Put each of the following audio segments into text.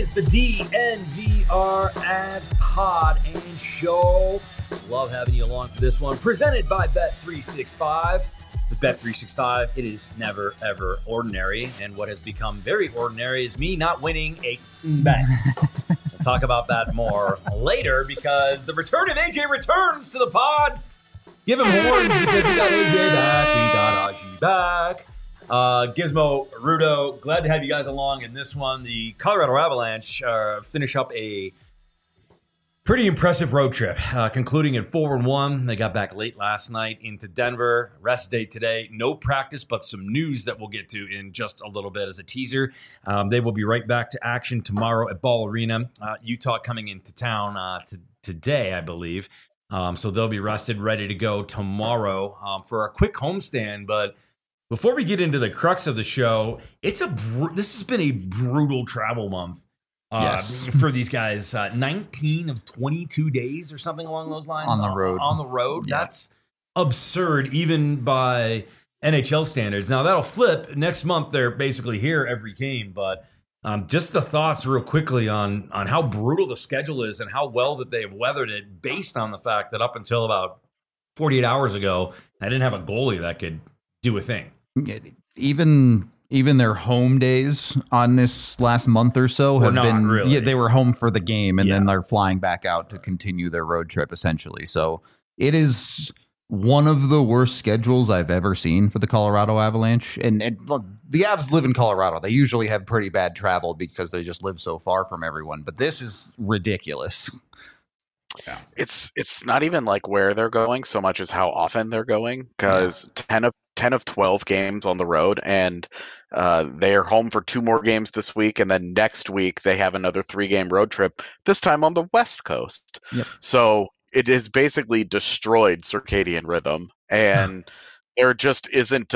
is the DNVR Ads Pod and Show. Love having you along for this one. Presented by Bet365. With Bet365, it is never, ever ordinary. And what has become very ordinary is me not winning a bet. We'll talk about that more later because the return of AJ returns to the pod. Give him horns because we got AJ back. We got Aji back. Gizmo, Rudo, glad to have you guys along in this one. The Colorado Avalanche finish up a pretty impressive road trip, concluding at 4-1. They got back late last night into Denver. Rest day today. No practice, but some news that we'll get to in just a little bit as a teaser. They will be right back to action tomorrow at Ball Arena. Utah coming into town today, I believe. So they'll be rested, ready to go tomorrow for a quick homestand. But before we get into the crux of the show, this has been a brutal travel month. Yes. For these guys, 19 of 22 days or something along those lines on the road. On the road, yeah. That's absurd, even by NHL standards. Now that'll flip next month. They're basically here every game, but just the thoughts real quickly on how brutal the schedule is and how well that they have weathered it, based on the fact that up until about 48 hours ago, I didn't have a goalie that could do a thing. Even their home days on this last month or so have been really. Yeah, they were home for the game and then they're flying back out to continue their road trip essentially. So it is one of the worst schedules I've ever seen for the Colorado Avalanche. And look, the Avs live in Colorado. They usually have pretty bad travel because they just live so far from everyone. But this is ridiculous. Yeah. It's not even like where they're going so much as how often they're going, because 10 of 12 games on the road, and they are home for 2 more games this week, and then next week they have another 3-game road trip, this time on the West Coast. Yep. So it has basically destroyed circadian rhythm, and there just isn't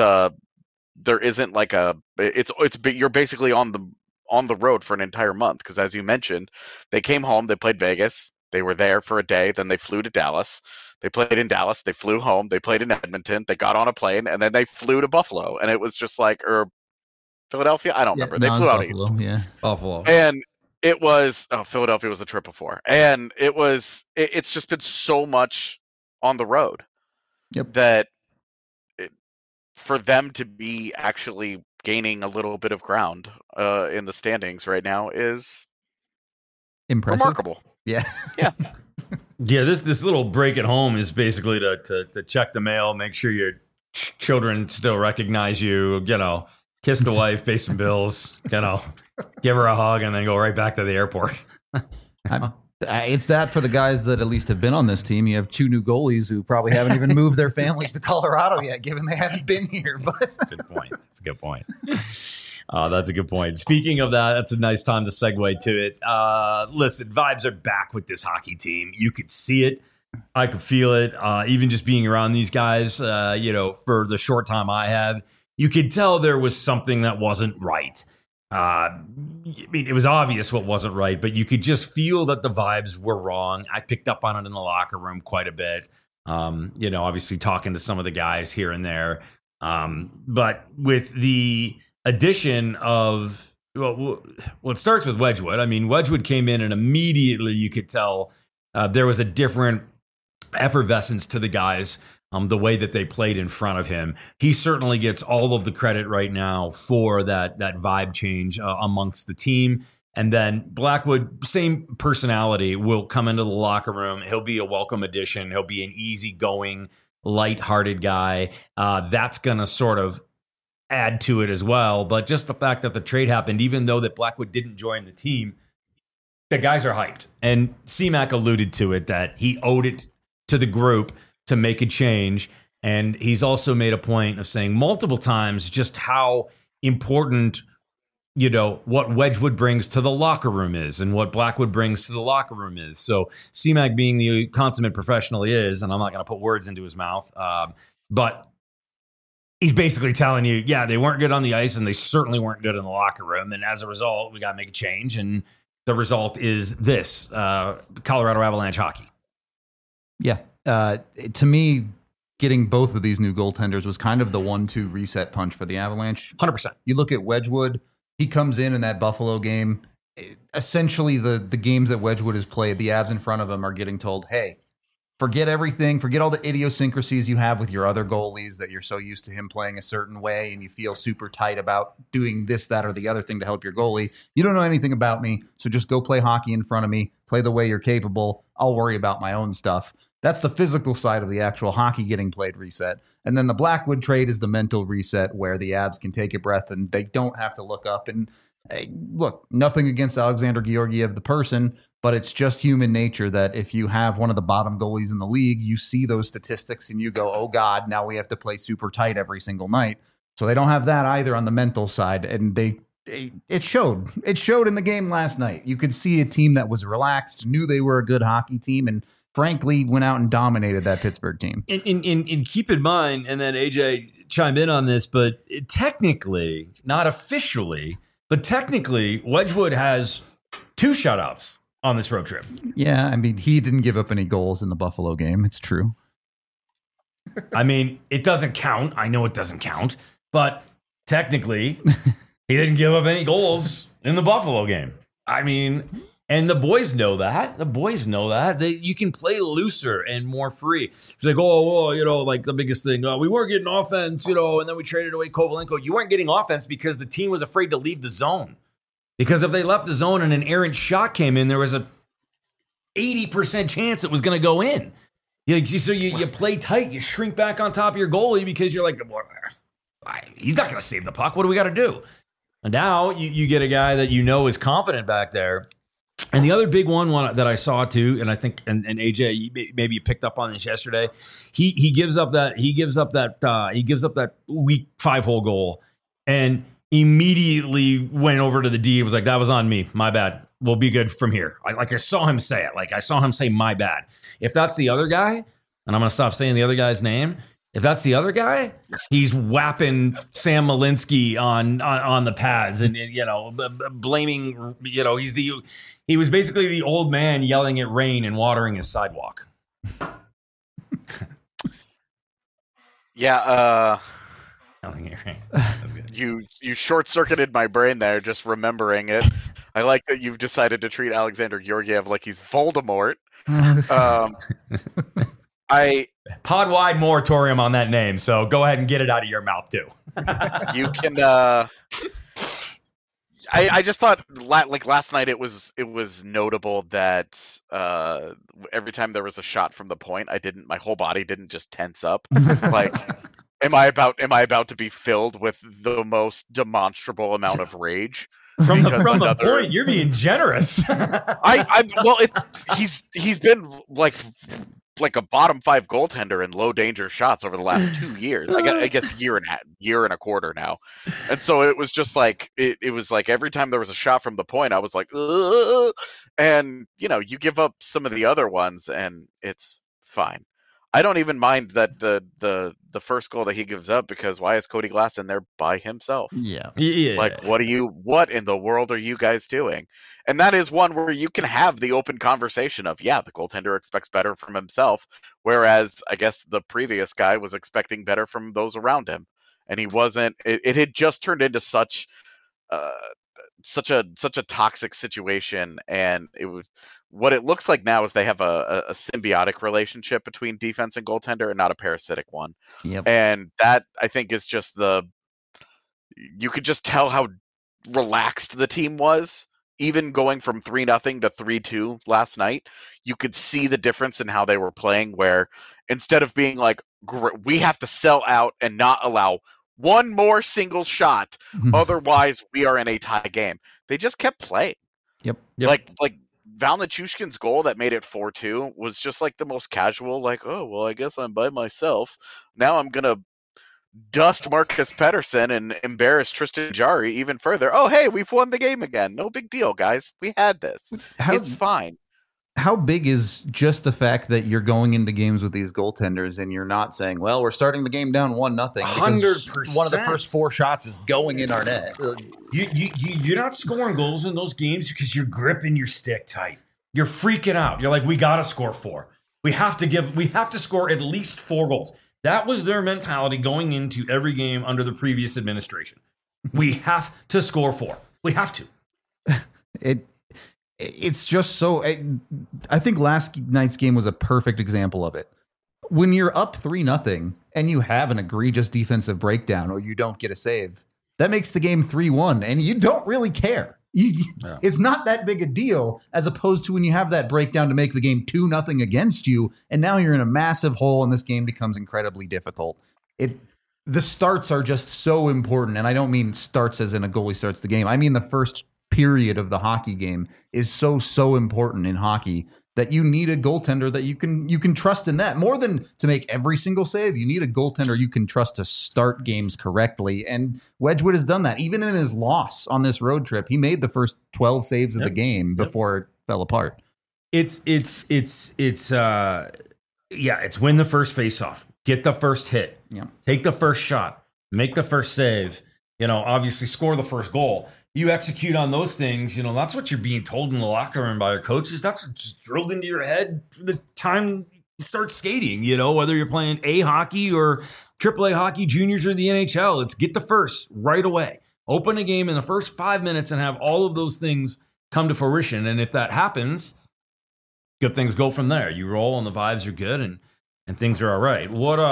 like you're basically on the road for an entire month, because as you mentioned, they came home, they played Vegas. They were there for a day, then they flew to Dallas. They played in Dallas, they flew home, they played in Edmonton, they got on a plane, and then they flew to Buffalo. And it was just like, or Philadelphia? I don't remember. They flew out Buffalo, east. Yeah, Buffalo. And it was, Philadelphia was the trip before. And it's just been so much on the road that for them to be actually gaining a little bit of ground in the standings right now is impressive. Remarkable. Yeah. Yeah. Yeah, this little break at home is basically to check the mail, make sure your children still recognize you, kiss the wife, pay some bills, give her a hug, and then go right back to the airport. It's that for the guys that at least have been on this team. You have 2 new goalies who probably haven't even moved their families to Colorado yet, given they haven't been here. But that's a good point. That's a good point. That's a good point. Speaking of that, that's a nice time to segue to it. Listen, vibes are back with this hockey team. You could see it. I could feel it. Even just being around these guys, for the short time I have, you could tell there was something that wasn't right. It was obvious what wasn't right, but you could just feel that the vibes were wrong. I picked up on it in the locker room quite a bit. Obviously talking to some of the guys here and there. But with the addition of, it starts with Wedgwood. I mean, Wedgwood came in and immediately you could tell there was a different effervescence to the guys, the way that they played in front of him. He certainly gets all of the credit right now for that vibe change amongst the team. And then Blackwood, same personality, will come into the locker room. He'll be a welcome addition. He'll be an easygoing, lighthearted guy. That's going to sort of add to it as well. But just the fact that the trade happened, even though that Blackwood didn't join the team, the guys are hyped. And C-Mac alluded to it, that he owed it to the group to make a change. And he's also made a point of saying multiple times just how important, what Wedgwood brings to the locker room is and what Blackwood brings to the locker room is. So C-Mac, being the consummate professional he is, and I'm not going to put words into his mouth, but he's basically telling you, they weren't good on the ice and they certainly weren't good in the locker room. And as a result, we got to make a change. And the result is this, Colorado Avalanche hockey. Yeah. To me, getting both of these new goaltenders was kind of the 1-2 reset punch for the Avalanche. 100%. You look at Wedgwood, he comes in that Buffalo game. essentially the games that Wedgwood has played, the Avs in front of him are getting told, hey, forget everything. Forget all the idiosyncrasies you have with your other goalies that you're so used to him playing a certain way and you feel super tight about doing this, that, or the other thing to help your goalie. You don't know anything about me, so just go play hockey in front of me. Play the way you're capable. I'll worry about my own stuff. That's the physical side of the actual hockey getting played reset. And then the Blackwood trade is the mental reset where the Avs can take a breath and they don't have to look up. And hey, look, nothing against Alexander Georgiev, the person, but it's just human nature that if you have one of the bottom goalies in the league, you see those statistics and you go, oh God, now we have to play super tight every single night. So they don't have that either on the mental side. And it showed. It showed in the game last night. You could see a team that was relaxed, knew they were a good hockey team, and frankly went out and dominated that Pittsburgh team. And keep in mind, and then AJ chimed in on this, but technically, not officially, but technically, Wedgwood has 2 shutouts on this road trip. Yeah, I mean, he didn't give up any goals in the Buffalo game. It's true. I mean, it doesn't count. I know it doesn't count, but technically, he didn't give up any goals in the Buffalo game. I mean, and the boys know that. The boys know that. You can play looser and more free. It's like, like the biggest thing, we weren't getting offense, and then we traded away Kovalenko. You weren't getting offense because the team was afraid to leave the zone. Because if they left the zone and an errant shot came in, there was a 80% chance it was going to go in. So you play tight. You shrink back on top of your goalie because you're like, he's not going to save the puck. What do we got to do? And now you get a guy that is confident back there. And the other big one that I saw too, and I think, and AJ, maybe you picked up on this yesterday. He gives up that weak 5-hole goal, and immediately went over to the D and was like, "That was on me, my bad. We'll be good from here." I saw him say it. I saw him say, "My bad." If that's the other guy, and I'm going to stop saying the other guy's name. If that's the other guy, he's whapping Sam Malinsky on the pads and blaming. He was basically the old man yelling at rain and watering his sidewalk. Yeah. You short-circuited my brain there just remembering it. I like that you've decided to treat Alexander Georgiev like he's Voldemort. Pod-wide moratorium on that name, so go ahead and get it out of your mouth too. You can. I just thought last night it was notable that every time there was a shot from the point, my whole body didn't just tense up. Like, am I about to be filled with the most demonstrable amount of rage? From the point, you're being generous. He's been like a bottom 5 goaltender in low danger shots over the last 2 years. I guess year and a quarter now. And so it was just like it was like every time there was a shot from the point, I was like, ugh! And you give up some of the other ones, and it's fine. I don't even mind that the first goal that he gives up, because why is Cody Glass in there by himself? Yeah. Like, what in the world are you guys doing? And that is one where you can have the open conversation of, the goaltender expects better from himself, whereas I guess the previous guy was expecting better from those around him, and he wasn't. It had just turned into such a toxic situation, and it was. What it looks like now is they have a symbiotic relationship between defense and goaltender, and not a parasitic one. Yep. And that, I think, is just you could just tell how relaxed the team was, even going from 3-0 to 3-2 last night. You could see the difference in how they were playing, where instead of being like, we have to sell out and not allow one more single shot, otherwise we are in a tie game, they just kept playing. Yep. Like Val Nichushkin's goal that made it 4-2 was just like the most casual, like, oh, well, I guess I'm by myself. Now I'm going to dust Marcus Pettersson and embarrass Tristan Jarry even further. Oh, hey, we've won the game again. No big deal, guys. We had this. It's fine. How big is just the fact that you're going into games with these goaltenders and you're not saying, well, we're starting the game down 1-0. 100%. One of the first 4 shots is going in our net. You're not scoring goals in those games because you're gripping your stick tight. You're freaking out. You're like, we got to score 4. We have to score at least 4 goals. That was their mentality going into every game under the previous administration. We have to score 4. We have to. It's just so. I think last night's game was a perfect example of it. When you're up 3-0 and you have an egregious defensive breakdown or you don't get a save, that makes the game 3-1, and you don't really care. It's not that big a deal, as opposed to when you have that breakdown to make the game 2-0 against you, and now you're in a massive hole, and this game becomes incredibly difficult. The starts are just so important, and I don't mean starts as in a goalie starts the game. I mean the first period of the hockey game is so important in hockey that you need a goaltender that you can trust in that. More than to make every single save, you need a goaltender you can trust to start games correctly. And Wedgwood has done that. Even in his loss on this road trip, he made the first 12 saves of the game before it fell apart. It's win the first faceoff, get the first hit, take the first shot, make the first save, obviously score the first goal. You execute on those things, that's what you're being told in the locker room by your coaches. That's just drilled into your head from the time you start skating, whether you're playing A hockey or AAA hockey, juniors or the NHL. It's get the first right away. Open a game in the first 5 minutes and have all of those things come to fruition. And if that happens, good things go from there. You roll and the vibes are good and things are all right.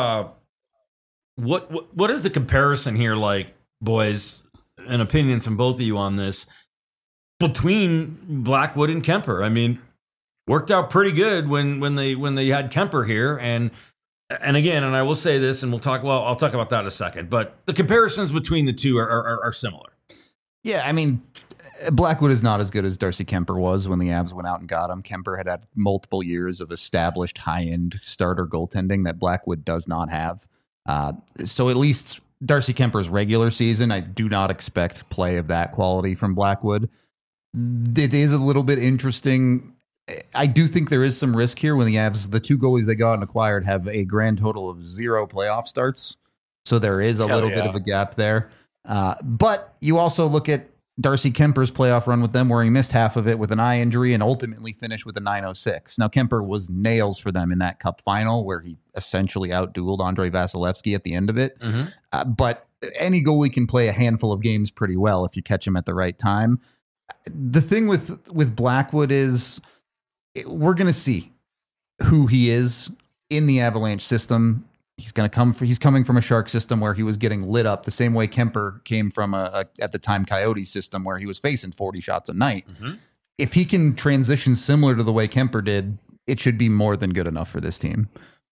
What is the comparison here like, boys? And opinions from both of you on this between Blackwood and Kuemper. I mean, worked out pretty good when they had Kuemper here, and again, and I will say this, and I'll talk about that in a second. But the comparisons between the two are similar. Yeah, I mean, Blackwood is not as good as Darcy Kuemper was when the Avs went out and got him. Kuemper had multiple years of established high-end starter goaltending that Blackwood does not have. So at least Darcy Kuemper's regular season, I do not expect play of that quality from Blackwood. It is a little bit interesting. I do think there is some risk here when the Avs, the two goalies they got and acquired, have a grand total of 0 playoff starts. So there is a little bit of a gap there. But you also look at Darcy Kuemper's playoff run with them, where he missed half of it with an eye injury and ultimately finished with a .906. Now, Kuemper was nails for them in that cup final, where he essentially outdueled Andrei Vasilevsky at the end of it. Mm-hmm. But any goalie can play a handful of games pretty well if you catch him at the right time. The thing with Blackwood is we're going to see who he is in the Avalanche system. He's coming from a Shark system where he was getting lit up the same way Kuemper came from at the time Coyote system where he was facing 40 shots a night. Mm-hmm. If he can transition similar to the way Kuemper did, it should be more than good enough for this team.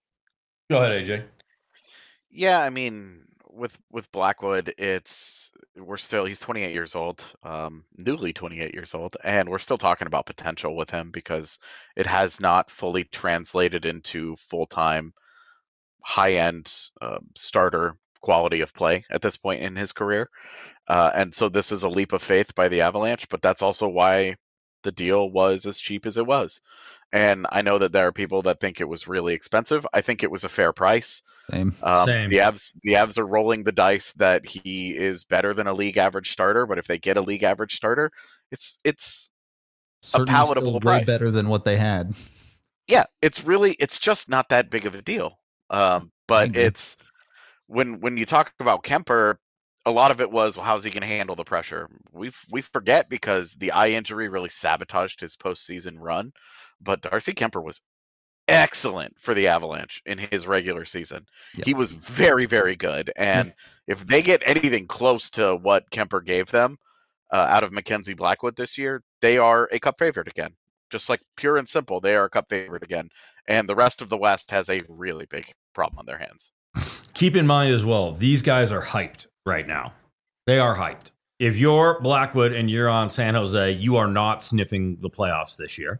Go ahead, AJ. Yeah, I mean, with Blackwood, he's 28 years old, newly 28 years old, and we're still talking about potential with him because it has not fully translated into full-time high-end starter quality of play at this point in his career. And so this is a leap of faith by the Avalanche, but that's also why the deal was as cheap as it was. And I know that there are people that think it was really expensive. I think it was a fair price. Same. The Avs are rolling the dice that he is better than a league average starter, but if they get a league average starter, it's a palatable price. Way better than what they had. Yeah, it's just not that big of a deal. But it's when you talk about Kuemper, a lot of it was, well, how's he going to handle the pressure? We forget because the eye injury really sabotaged his postseason run. But Darcy Kuemper was excellent for the Avalanche in his regular season. Yep. He was very, very good. And if they get anything close to what Kuemper gave them out of Mackenzie Blackwood this year, they are a cup favorite again. Just like pure and simple, they are a cup favorite again. And the rest of the West has a really big problem on their hands. Keep in mind as well, these guys are hyped right now. They are hyped. If you're Blackwood and you're on San Jose, you are not sniffing the playoffs this year.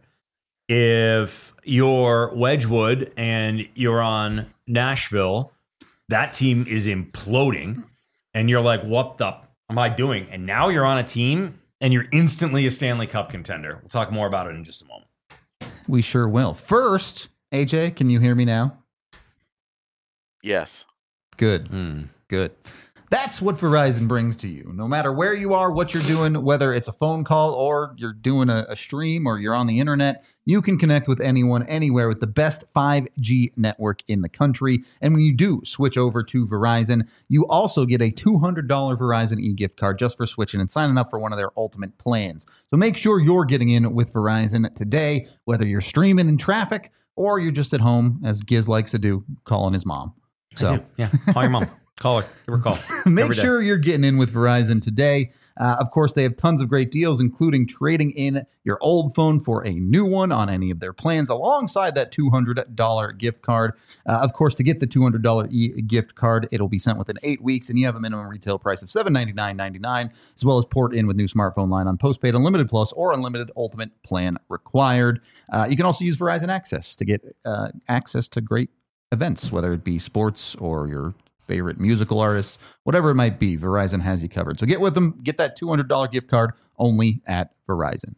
If you're Wedgwood and you're on Nashville, that team is imploding. And you're like, what the am I doing? And now you're on a team and you're instantly a Stanley Cup contender. We'll talk more about it in just a moment. We sure will. First, AJ, can you hear me now? Yes. Good. Good. That's what Verizon brings to you. No matter where you are, what you're doing, whether it's a phone call or you're doing a stream or you're on the internet, you can connect with anyone, anywhere with the best 5G network in the country. And when you do switch over to Verizon, you also get a $200 Verizon e-gift card just for switching and signing up for one of their ultimate plans. So make sure you're getting in with Verizon today, whether you're streaming in traffic or you're just at home, as Giz likes to do, calling his mom. So yeah, call your mom. Call her. Give her a call. Make sure you're getting in with Verizon today. Of course, they have tons of great deals, including trading in your old phone for a new one on any of their plans, alongside that $200 gift card. Of course, to get the $200 gift card, it'll be sent within 8 weeks, and you have a minimum retail price of $799.99, as well as port in with new smartphone line on postpaid Unlimited Plus or Unlimited Ultimate plan required. You can also use Verizon Access to get access to great events, whether it be sports or your favorite musical artists, whatever it might be. Verizon has you covered. So get with them. Get that $200 gift card only at Verizon.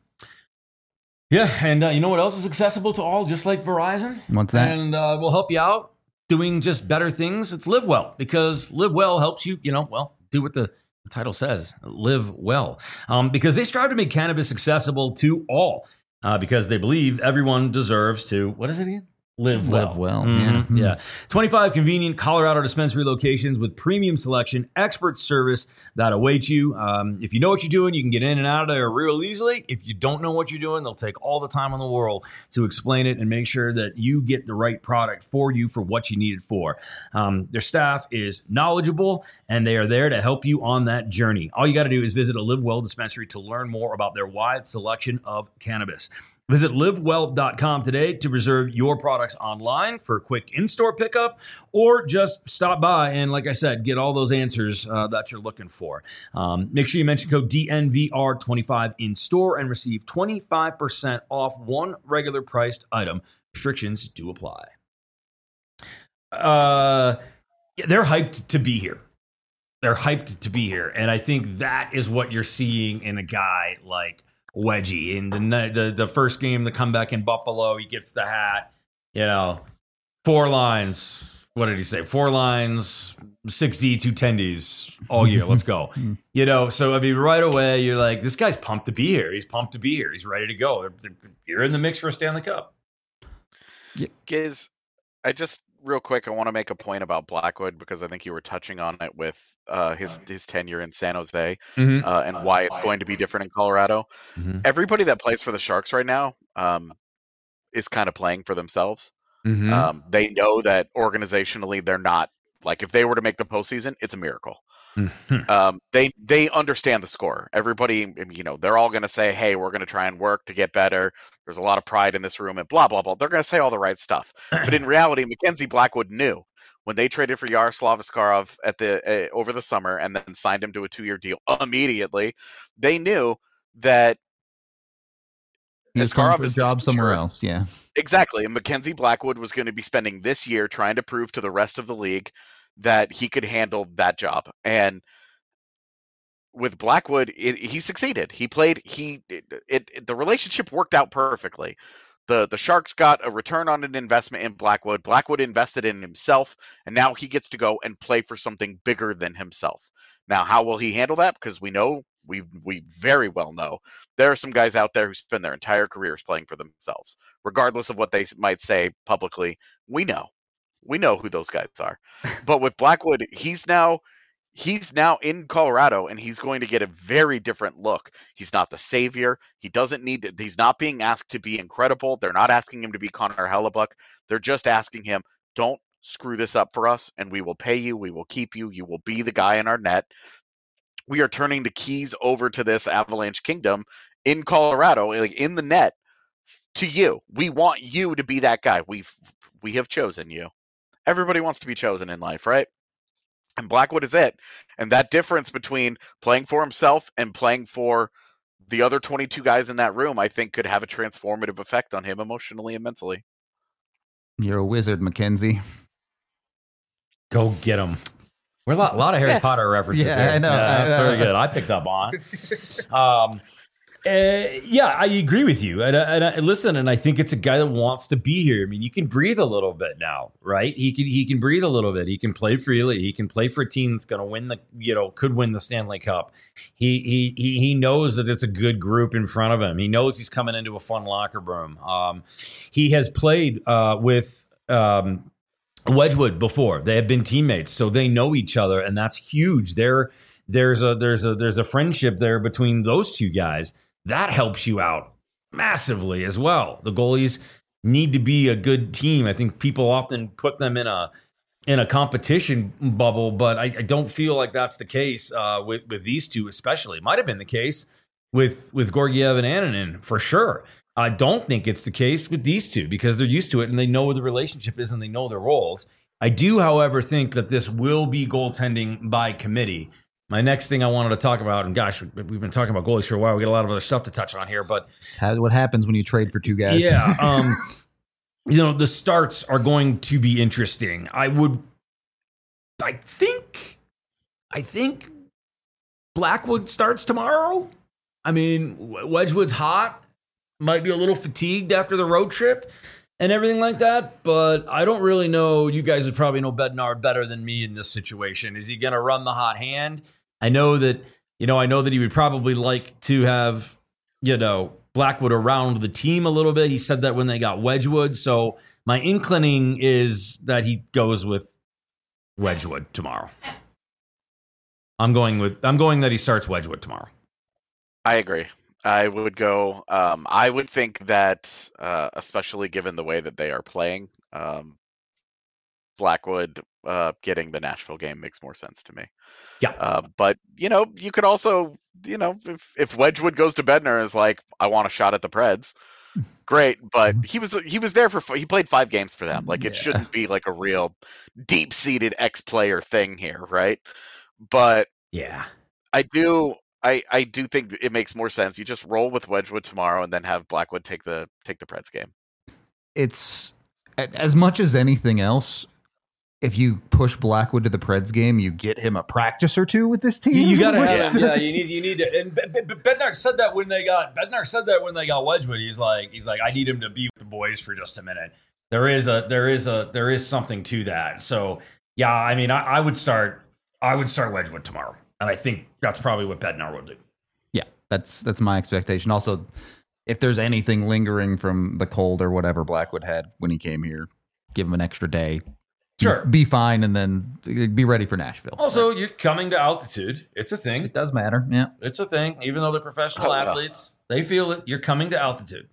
Yeah, and you know what else is accessible to all, just like Verizon? What's that? And we'll help you out doing just better things. It's Live Well, because Live Well helps you, do what the title says, live well. Because they strive to make cannabis accessible to all, because they believe everyone deserves to, what is it again? Live well. Live well. Mm-hmm. Yeah. 25 convenient Colorado dispensary locations with premium selection, expert service that awaits you. If you know what you're doing, you can get in and out of there real easily. If you don't know what you're doing, they'll take all the time in the world to explain it and make sure that you get the right product for you for what you need it for. Their staff is knowledgeable, and they are there to help you on that journey. All you got to do is visit a Live Well dispensary to learn more about their wide selection of cannabis. Visit livewell.com today to reserve your products online for a quick in-store pickup, or just stop by and, like I said, get all those answers that you're looking for. Make sure you mention code DNVR25 in store and receive 25% off one regular priced item. Restrictions do apply. They're hyped to be here. And I think that is what you're seeing in a guy like Wedgie. In the first game, the comeback in Buffalo, he gets the hat, 4 lines. What did he say? 4 lines, 6D, 2 10Ds all year. Let's go. So I mean, right away, you're like, this guy's pumped to be here. He's pumped to be here. He's ready to go. You're in the mix for a Stanley Cup. Giz, real quick, I want to make a point about Blackwood, because I think you were touching on it with his tenure in San Jose, and why it's going to be different in Colorado. Mm-hmm. Everybody that plays for the Sharks right now is kind of playing for themselves. Mm-hmm. They know that organizationally they're not, like, if they were to make the postseason, it's a miracle. Mm-hmm. They understand the score. Everybody, they're all going to say, hey, we're going to try and work to get better. There's a lot of pride in this room and blah, blah, blah. They're going to say all the right stuff. But in reality, Mackenzie Blackwood knew when they traded for Yaroslav Askarov over the summer and then signed him to a 2-year deal immediately. They knew that he's going for a job somewhere else. Yeah, exactly. And Mackenzie Blackwood was going to be spending this year trying to prove to the rest of the league that he could handle that job. And with Blackwood, he succeeded. He played. The relationship worked out perfectly. The Sharks got a return on an investment in Blackwood. Blackwood invested in himself, and now he gets to go and play for something bigger than himself. Now, how will he handle that? Because we very well know there are some guys out there who spend their entire careers playing for themselves, regardless of what they might say publicly. We know who those guys are. But with Blackwood, he's now in Colorado, and he's going to get a very different look. He's not the savior. He's not being asked to be incredible. They're not asking him to be Connor Hellebuck. They're just asking him, don't screw this up for us, and we will pay you. We will keep you. You will be the guy in our net. We are turning the keys over to this Avalanche kingdom in Colorado, like in the net, to you. We want you to be that guy. We have chosen you. Everybody wants to be chosen in life, right? And Blackwood is it. And that difference between playing for himself and playing for the other 22 guys in that room, I think, could have a transformative effect on him emotionally and mentally. You're a wizard, Mackenzie. Go get him. We're a lot of Harry Potter references here. I know. Yeah, that's very good. I picked up on. Yeah, I agree with you. And listen, and I think it's a guy that wants to be here. I mean, you can breathe a little bit now, right? He can breathe a little bit. He can play freely. He can play for a team that's going to win could win the Stanley Cup. He knows that it's a good group in front of him. He knows he's coming into a fun locker room. He has played with Wedgwood before. They have been teammates, so they know each other, and that's huge. There's a friendship there between those two guys. That helps you out massively as well. The goalies need to be a good team. I think people often put them in a competition bubble, but I don't feel like that's the case with these two especially. It might have been the case with Georgiev and Annunen for sure. I don't think it's the case with these two because they're used to it and they know what the relationship is and they know their roles. I do, however, think that this will be goaltending by committee. My next thing I wanted to talk about, and gosh, we've been talking about goalies for a while. We got a lot of other stuff to touch on here, but what happens when you trade for two guys? Yeah, the starts are going to be interesting. I think Blackwood starts tomorrow. I mean, Wedgwood's hot, might be a little fatigued after the road trip and everything like that, but I don't really know. You guys would probably know Bednar better than me in this situation. Is he going to run the hot hand? I know that he would probably like to have, Blackwood around the team a little bit. He said that when they got Wedgwood. So my inclining is that he goes with Wedgwood tomorrow. I'm going that he starts Wedgwood tomorrow. I agree. I would go. I would think that, especially given the way that they are playing, Blackwood getting the Nashville game makes more sense to me. Yeah. But you could also, if Wedgwood goes to Bednar and is like, I want a shot at the Preds, great. But he was there he played 5 games for them. Like it shouldn't be like a real deep seated ex-player thing here, right? But yeah, I do think it makes more sense. You just roll with Wedgwood tomorrow and then have Blackwood take the Preds game. It's as much as anything else. If you push Blackwood to the Preds game, you get him a practice or two with this team. You got to have him. Yeah, you need to. And Bednar said that when they got Wedgwood. He's like, I need him to be with the boys for just a minute. There is something to that. So yeah, I mean, I would start Wedgwood tomorrow, and I think that's probably what Bednar will do. Yeah, that's my expectation. Also, if there's anything lingering from the cold or whatever Blackwood had when he came here, give him an extra day. Sure. Be fine and then be ready for Nashville. Also, you're coming to altitude. It's a thing. It does matter. Yeah. It's a thing. Even though they're professional athletes, they feel it. You're coming to altitude.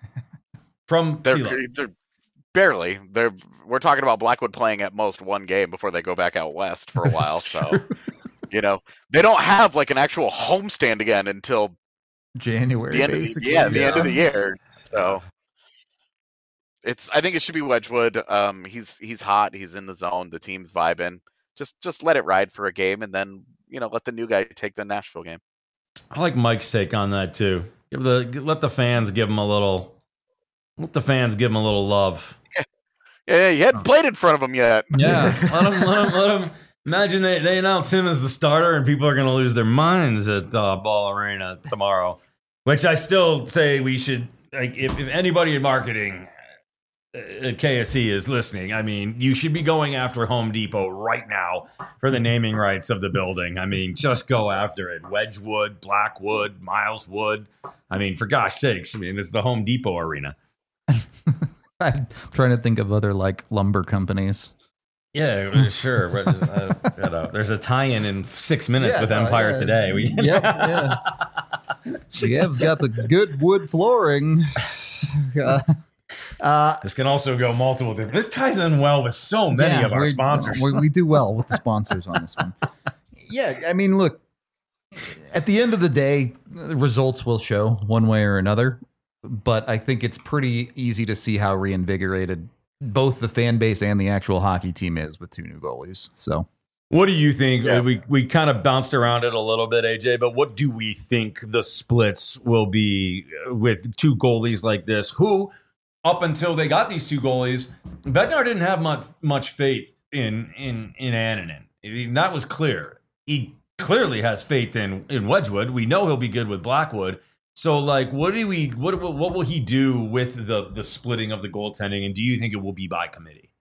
From sea level. They're barely. We're talking about Blackwood playing at most one game before they go back out west for a while. So, they don't have like an actual homestand again until January, the end basically. Of the end of the year. So I think it should be Wedgwood. He's hot. He's in the zone. The team's vibing. Just let it ride for a game, and then let the new guy take the Nashville game. I like Mike's take on that too. Let the fans give him a little. Let the fans give him a little love. Yeah, he hadn't played in front of him yet. Yeah, let him. Imagine they announce him as the starter, and people are going to lose their minds at Ball Arena tomorrow. Which I still say we should. Like, if anybody in marketing at KSE is listening, I mean, you should be going after Home Depot right now for the naming rights of the building. I mean, just go after it. Wedgwood, Blackwood, Mileswood. I mean, for gosh sakes, I mean, it's the Home Depot arena. I'm trying to think of other lumber companies. Yeah, sure. There's a tie-in 6 minutes with Empire Today. GM's got the good wood flooring. This can also go multiple different. This ties in well with so many of our sponsors. We do well with the sponsors on this one. Yeah, I mean, look, at the end of the day, the results will show one way or another. But I think it's pretty easy to see how reinvigorated both the fan base and the actual hockey team is with 2 new goalies. So, what do you think? Yeah. We kind of bounced around it a little bit, AJ, but what do we think the splits will be with 2 goalies like this? Who, up until they got these 2 goalies, Bednar didn't have much faith in Annunen. That was clear. He clearly has faith in Wedgwood. We know he'll be good with Blackwood. So, like, what will he do with the splitting of the goaltending, and do you think it will be by committee?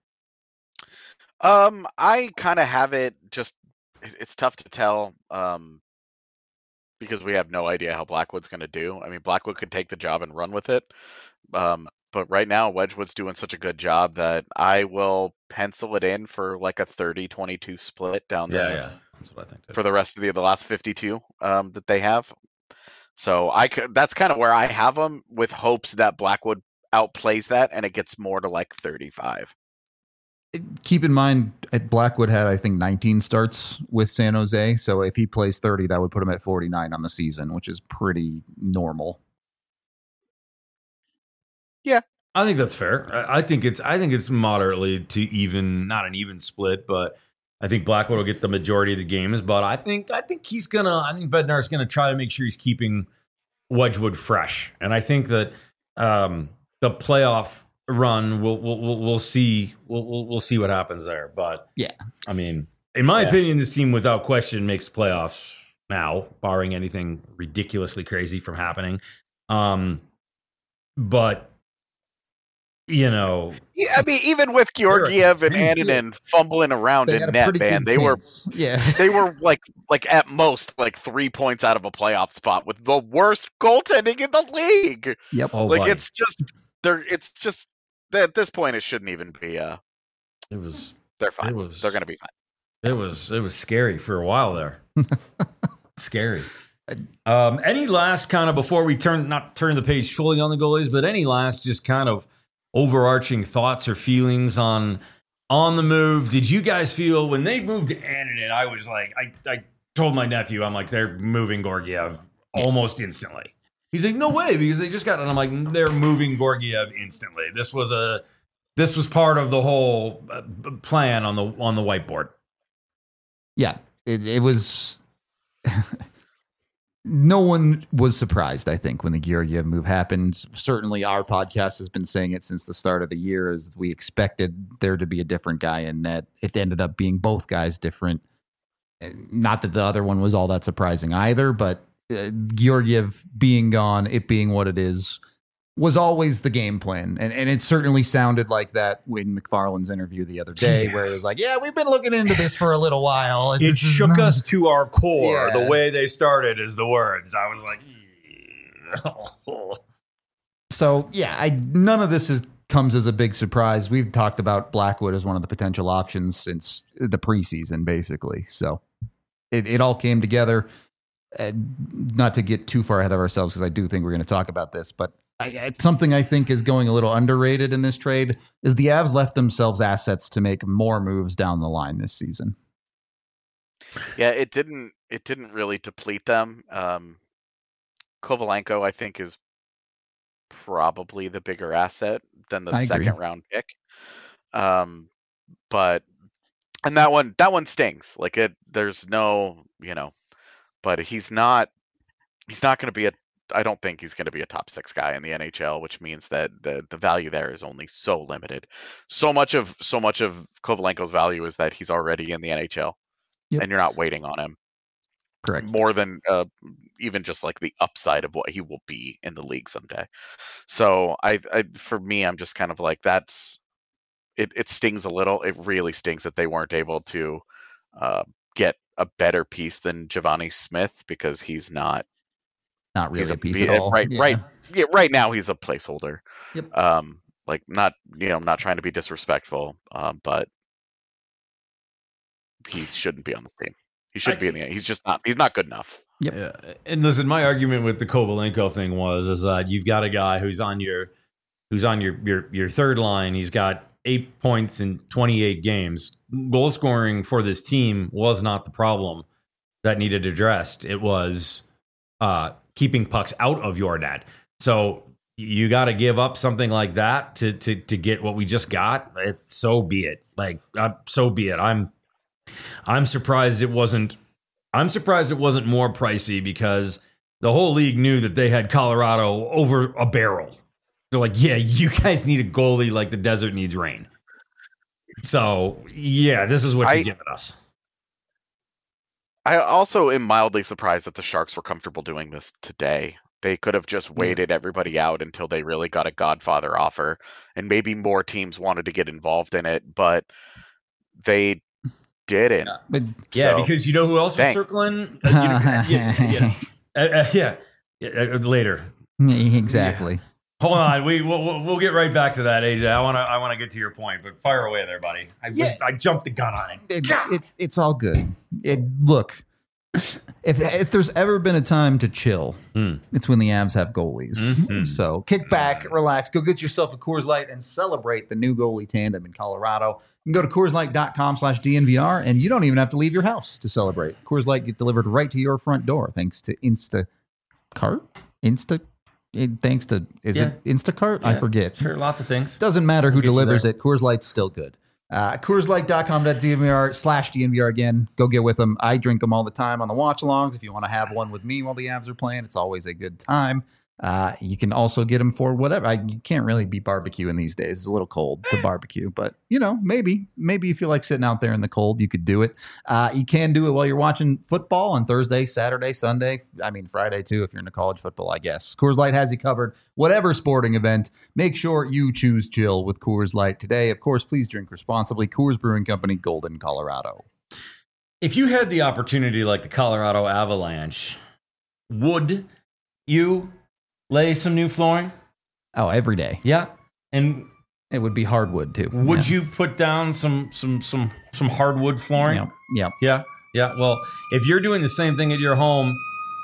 I kind of have it. Just it's tough to tell. Because we have no idea how Blackwood's going to do. I mean, Blackwood could take the job and run with it. But right now, Wedgwood's doing such a good job that I will pencil it in for like a 30-22 split down there. Yeah, that's what I think. For the rest of the last 52 that they have. So that's kind of where I have them, with hopes that Blackwood outplays that and it gets more to like 35. Keep in mind, Blackwood had, I think, 19 starts with San Jose. So if he plays 30, that would put him at 49 on the season, which is pretty normal. Yeah, I think that's fair. I think it's moderately to even, not an even split, but I think Blackwood will get the majority of the games. But I think Bednar's gonna try to make sure he's keeping Wedgwood fresh, and I think that the playoff run we'll see what happens there. But yeah, I mean, in my opinion, this team without question makes playoffs now, barring anything ridiculously crazy from happening. But you know, yeah, I mean, even with Georgiev and Annunen fumbling around in net, man, they were like at most like 3 points out of a playoff spot with the worst goaltending in the league. Yep. It's just at this point it shouldn't even be. They're fine. They're going to be fine. It was scary for a while there. Scary. Any last kind of, before we turn the page fully on the goalies, but any last just kind of overarching thoughts or feelings on the move? Did you guys feel when they moved to Annunen? I was like, I told my nephew, I'm like, they're moving Georgiev almost instantly. He's like, no way, because they just got it. I'm like, they're moving Georgiev instantly. This was part of the whole plan on the whiteboard. Yeah, it was. No one was surprised, I think, when the Georgiev move happened. Certainly our podcast has been saying it since the start of the year, as we expected there to be a different guy in net. It ended up being both guys different. Not that the other one was all that surprising either, but Georgiev being gone, it being what it is, was always the game plan. And it certainly sounded like that in McFarland's interview the other day, where it was like, yeah, we've been looking into this for a little while. It shook us to our core. Yeah. The way they started is the words. I was like, so yeah, none of this comes as a big surprise. We've talked about Blackwood as one of the potential options since the preseason, basically. So it all came together. Not to get too far ahead of ourselves, because I do think we're going to talk about this, but something I think is going a little underrated in this trade is the Avs left themselves assets to make more moves down the line this season. Yeah, it didn't really deplete them. Kovalenko, I think, is probably the bigger asset than the second round pick. But that one stings. Like there's no, but he's not going to be I don't think he's going to be a top 6 guy in the NHL, which means that the value there is only so limited. So much of Kovalenko's value is that he's already in the NHL, and you're not waiting on him. Correct. More than even just like the upside of what he will be in the league someday. So for me, I'm just kind of like, it stings a little. It really stings that they weren't able to get a better piece than Giovanni Smith, because he's not really a piece at all. Right. Yeah, right now he's a placeholder. Yep. Like not trying to be disrespectful, but he shouldn't be on this team. He should be in the end. He's not good enough. Yep. Yeah. And listen, my argument with the Kovalenko thing is that you've got a guy who's on your third line. He's got 8 points in 28 games. Goal scoring for this team was not the problem that needed addressed. It was keeping pucks out of your net. So you got to give up something like that to get what we just got. So be it. So be it. I'm surprised it wasn't. I'm surprised it wasn't more pricey, because the whole league knew that they had Colorado over a barrel. They're like, yeah, you guys need a goalie like the desert needs rain. So yeah, this is what you're giving us. I also am mildly surprised that the Sharks were comfortable doing this today. They could have just waited everybody out until they really got a Godfather offer, and maybe more teams wanted to get involved in it, but they didn't. Yeah, because you know who else was circling? Later. Exactly. Yeah. Hold on, we'll get right back to that, AJ. I want to get to your point, but fire away there, buddy. I jumped the gun on it. It's all good. Look, if there's ever been a time to chill, it's when the Avs have goalies. Mm-hmm. So kick back, relax, go get yourself a Coors Light and celebrate the new goalie tandem in Colorado. You can go to CoorsLight.com/DNVR, and you don't even have to leave your house to celebrate. Coors Light gets delivered right to your front door thanks to Instacart. It Instacart? Yeah, I forget. Sure, lots of things. Doesn't matter who delivers it. Coors Light's still good. CoorsLight.com/DNVR again. Go get with them. I drink them all the time on the watch-alongs. If you want to have one with me while the Avs are playing, it's always a good time. You can also get them for whatever. You can't really be barbecuing these days. It's a little cold to barbecue, but maybe if you like sitting out there in the cold, you could do it. You can do it while you're watching football on Thursday, Saturday, Sunday. I mean, Friday too, if you're into college football, I guess. Coors Light has you covered. Whatever sporting event, make sure you choose chill with Coors Light today. Of course, please drink responsibly. Coors Brewing Company, Golden, Colorado. If you had the opportunity like the Colorado Avalanche, would you lay some new flooring? Oh, every day. Yeah. And it would be hardwood too. Would you put down some hardwood flooring? Yep. Yeah. Well, if you're doing the same thing at your home.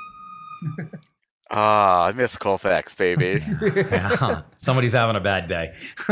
I miss Colfax, baby. Yeah. Somebody's having a bad day.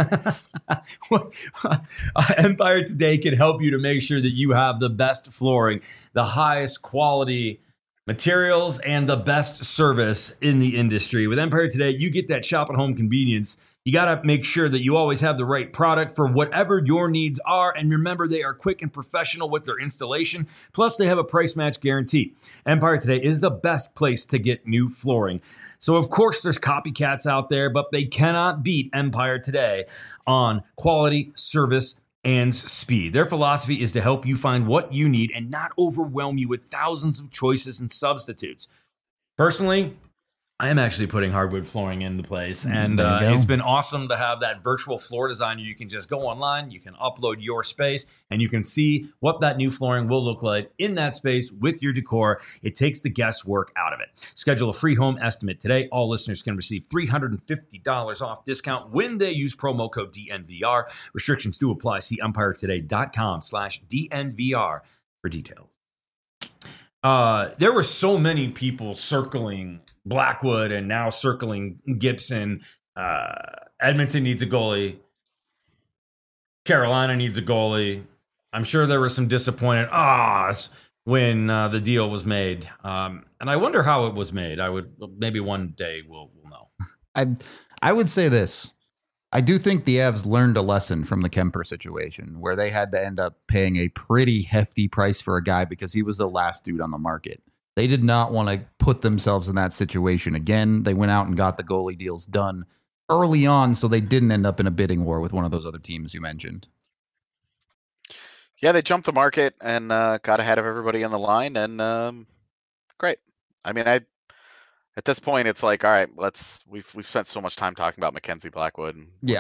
Empire Today can help you to make sure that you have the best flooring, the highest quality materials, and the best service in the industry. With Empire Today, you get that shop at home convenience. You got to make sure that you always have the right product for whatever your needs are. And remember, they are quick and professional with their installation. Plus, they have a price match guarantee. Empire Today is the best place to get new flooring. So, of course, there's copycats out there, but they cannot beat Empire Today on quality, service, and speed. Their philosophy is to help you find what you need and not overwhelm you with thousands of choices and substitutes. Personally, I am actually putting hardwood flooring in the place, and it's been awesome to have that virtual floor designer. You can just go online, you can upload your space, and you can see what that new flooring will look like in that space with your decor. It takes the guesswork out of it. Schedule a free home estimate today. All listeners can receive $350 off discount when they use promo code DNVR. Restrictions do apply. See EmpireToday.com/DNVR for details. There were so many people circling Blackwood and now circling Gibson. Edmonton needs a goalie. Carolina needs a goalie. I'm sure there were some disappointed ahs when the deal was made. And I wonder how it was made. Maybe one day we'll know. I would say this. I do think the Avs learned a lesson from the Kemper situation where they had to end up paying a pretty hefty price for a guy because he was the last dude on the market. They did not want to put themselves in that situation again. They went out and got the goalie deals done early on so they didn't end up in a bidding war with one of those other teams you mentioned. Yeah, they jumped the market and got ahead of everybody on the line, and great. I mean, at this point, it's like, all right, we've spent so much time talking about Mackenzie Blackwood. Yeah.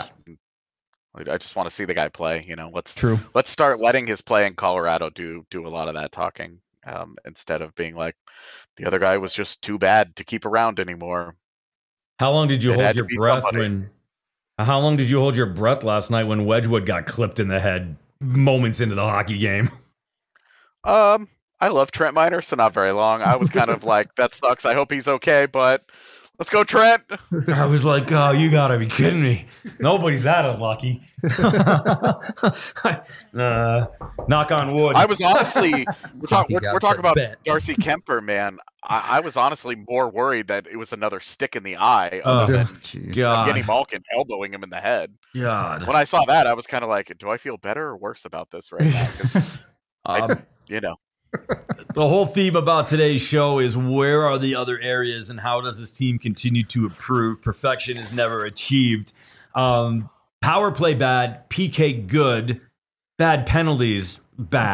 I just want to see the guy play. Let's start letting his play in Colorado do a lot of that talking, instead of being like the other guy was just too bad to keep around anymore. How long did you hold your breath How long did you hold your breath last night when Wedgwood got clipped in the head moments into the hockey game? I love Trent Miner, so not very long. I was kind of like, that sucks. I hope he's okay, but let's go, Trent. I was like, oh, you got to be kidding me. Nobody's that unlucky. Knock on wood. I was honestly, we're talking about Darcy Kemper, man. I was honestly more worried that it was another stick in the eye other than Evgeny Malkin elbowing him in the head. God. When I saw that, I was kind of like, do I feel better or worse about this right now? 'Cause The whole theme about today's show is where are the other areas and how does this team continue to improve? Perfection is never achieved. Power play bad, PK good, bad penalties bad.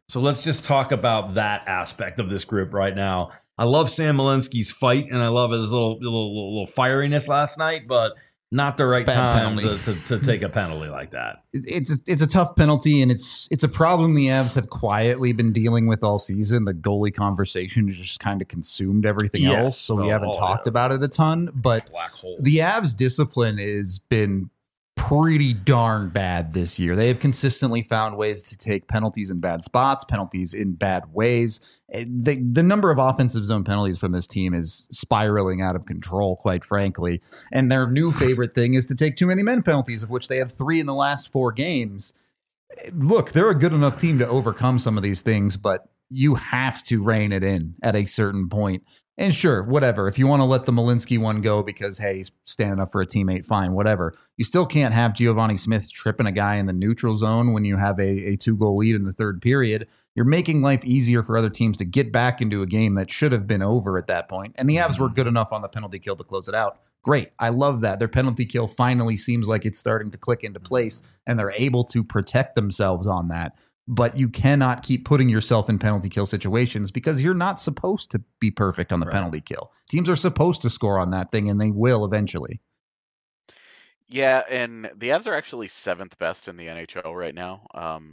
So let's just talk about that aspect of this group right now. I love Sam Malinsky's fight, and I love his little fieriness last night, but not the right time to take a penalty like that. It's a tough penalty, and it's a problem the Avs have quietly been dealing with all season. The goalie conversation has just kind of consumed everything else, so we haven't talked about it a ton. But the Avs discipline has been pretty darn bad this year. They have consistently found ways to take penalties in bad spots, penalties in bad ways. The number of offensive zone penalties from this team is spiraling out of control, quite frankly. And their new favorite thing is to take too many men penalties, of which they have 3 in the last 4 games. Look, they're a good enough team to overcome some of these things, but you have to rein it in at a certain point. And sure, whatever. If you want to let the Malinsky one go because, hey, he's standing up for a teammate, fine, whatever. You still can't have Giovanni Smith tripping a guy in the neutral zone when you have a 2-goal lead in the third period. You're making life easier for other teams to get back into a game that should have been over at that point. And the Avs were good enough on the penalty kill to close it out. Great. I love that. Their penalty kill finally seems like it's starting to click into place, and they're able to protect themselves on that. But you cannot keep putting yourself in penalty kill situations because you're not supposed to be perfect on the penalty kill. Teams are supposed to score on that thing, and they will eventually. Yeah, and the Avs are actually 7th best in the NHL right now,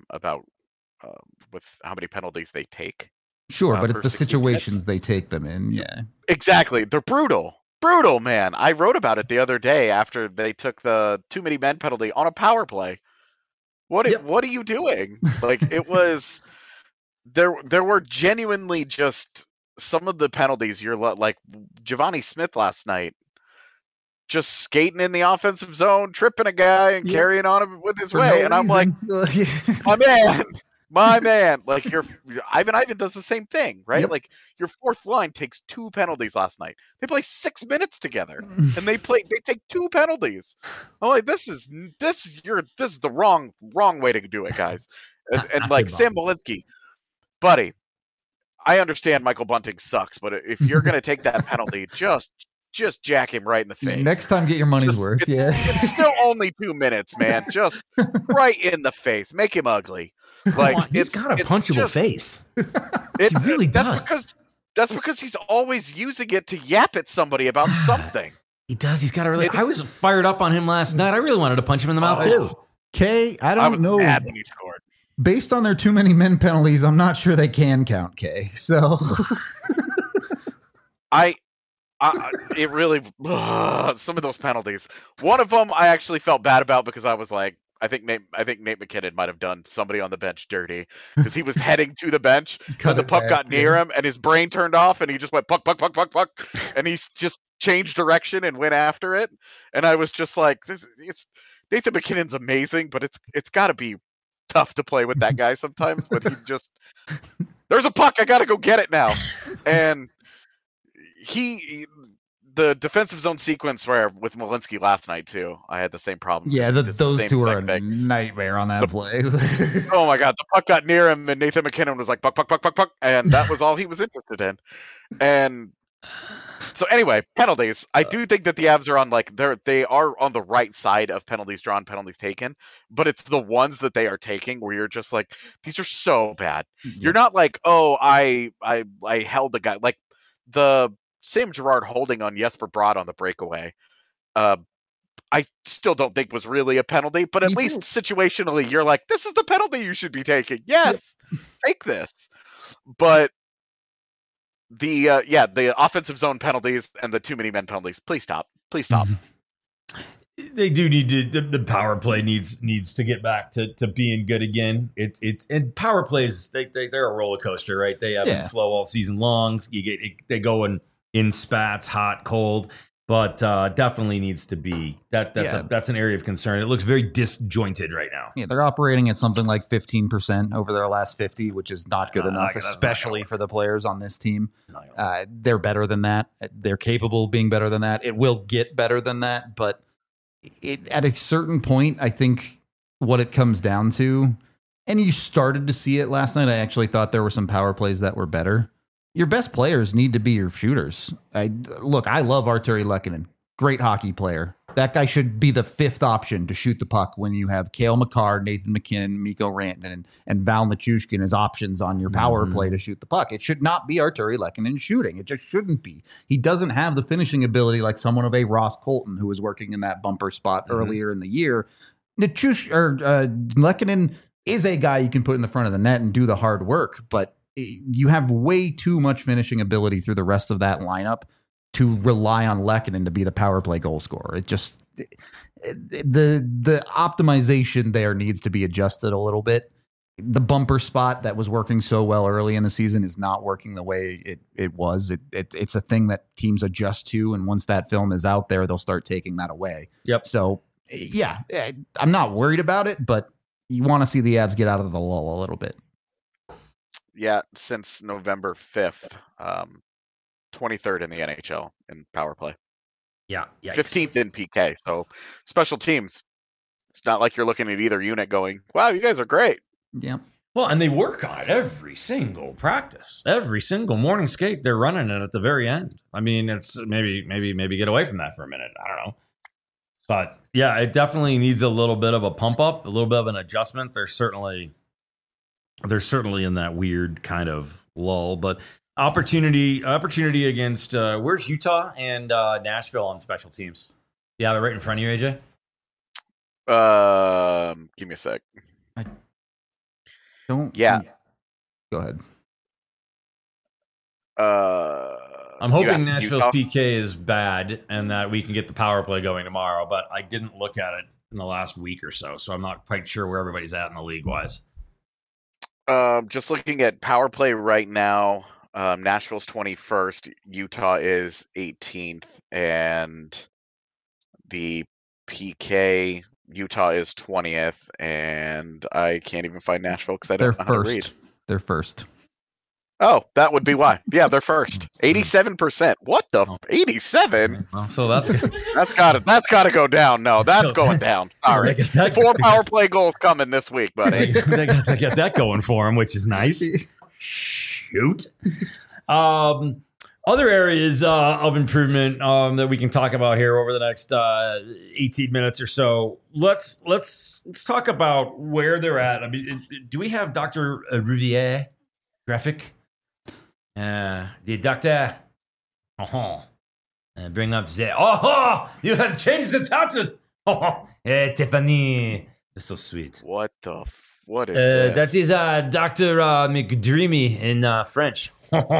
with how many penalties they take. Sure, but it's the situations they take them in. Yeah, exactly. They're brutal. Brutal, man. I wrote about it the other day after they took the too many men penalty on a power play. What are you doing? Like, it was there were genuinely just some of the penalties you're like Giovanni Smith last night, just skating in the offensive zone, tripping a guy and carrying on him with his way. And I'm like, my man, like Ivan does the same thing, right? Yep. Like, your fourth line takes 2 penalties last night. They play 6 minutes together, and they take 2 penalties. I'm like, this is the wrong way to do it, guys. And like Sam Malinsky, buddy, I understand Michael Bunting sucks, but if you're gonna take that penalty, just jack him right in the face. Next time, get your money's worth. It's still only 2 minutes, man. Just right in the face. Make him ugly. Like, he's got a punchable face. He really does. That's because he's always using it to yap at somebody about something. He does. He's got a really. I was fired up on him last night. I really wanted to punch him in the mouth too. Kay, I don't know. Mad when he scored. Based on their too many men penalties, I'm not sure they can count Kay. So, it really some of those penalties. One of them I actually felt bad about because I was like, I think Nate McKinnon might have done somebody on the bench dirty because he was heading to the bench and the puck got near him and his brain turned off and he just went puck, and he just changed direction and went after it. And I was just like, Nathan McKinnon's amazing, but it's got to be tough to play with that guy sometimes. But he just, there's a puck, I got to go get it now. And the defensive zone sequence with Malinsky last night too, I had the same problem. Yeah, those two are a nightmare on that play. Oh my god, the puck got near him, and Nathan McKinnon was like puck, and that was all he was interested in. And so anyway, penalties. I do think that the Avs are they are on the right side of penalties drawn, penalties taken, but it's the ones that they are taking where you're just like, these are so bad. Yeah. You're not like, oh, I held the guy, like the Sam Girard holding on Jesper Bratt on the breakaway. I still don't think was really a penalty, but at least situationally, you're like, this is the penalty you should be taking. Yes, take this. But the offensive zone penalties and the too many men penalties, please stop. They do need to. The power play needs to get back to being good again. It's and power plays they're a roller coaster, right? They ebb and flow all season long. They go in spats, hot, cold, but definitely needs to be that's an area of concern. It looks very disjointed right now. Yeah, they're operating at something like 15% over their last 50, which is not good enough, especially for the players on this team. They're better than that. They're capable of being better than that. It will get better than that, but at a certain point, I think what it comes down to, and you started to see it last night, I actually thought there were some power plays that were better. Your best players need to be your shooters. I love Artturi Lehkonen. Great hockey player. That guy should be the fifth option to shoot the puck when you have Cale Makar, Nathan MacKinnon, Mikko Rantanen, and Val Nichushkin as options on your power play to shoot the puck. It should not be Artturi Lehkonen shooting. It just shouldn't be. He doesn't have the finishing ability like someone of a Ross Colton who was working in that bumper spot earlier in the year. Lehkonen is a guy you can put in the front of the net and do the hard work, but you have way too much finishing ability through the rest of that lineup to rely on Lehkonen to be the power play goal scorer. It just the optimization there needs to be adjusted a little bit. The bumper spot that was working so well early in the season is not working the way it was. It's a thing that teams adjust to, and once that film is out there, they'll start taking that away. Yep. So yeah, I'm not worried about it, but you want to see the Avs get out of the lull a little bit. Yeah, since November 5th. 23rd in the NHL in power play. Yeah. 15th in PK. So special teams. It's not like you're looking at either unit going, wow, you guys are great. Yeah. Well, and they work on it every single practice, every single morning skate. They're running it at the very end. I mean, it's maybe get away from that for a minute. I don't know. But yeah, it definitely needs a little bit of a pump up, a little bit of an adjustment. They're certainly in that weird kind of lull, but opportunity against where's Utah and Nashville on special teams? Yeah, they're right in front of you, AJ. Give me a sec. Go ahead. I'm hoping Nashville's Utah? PK is bad and that we can get the power play going tomorrow, but I didn't look at it in the last week or so I'm not quite sure where everybody's at in the league wise. Just looking at power play right now. Nashville's 21st, Utah is 18th, and the PK, Utah is 20th, and I can't even find Nashville because I don't know how to read. They're first. Oh, that would be why. Yeah, they're first. 87%. What the 87? Well, so that's good. That's gotta go down. No, that's going down. Sorry. 4 power play goals coming this week, buddy. they got that going for them, which is nice. Shoot. Other areas of improvement that we can talk about here over the next 18 minutes or so. Let's talk about where they're at. I mean, do we have Dr. Riviere graphic? The doctor. Bring up the. You have changed the title. Tiffany, it's so sweet. What is this? That is Dr. McDreamy in French.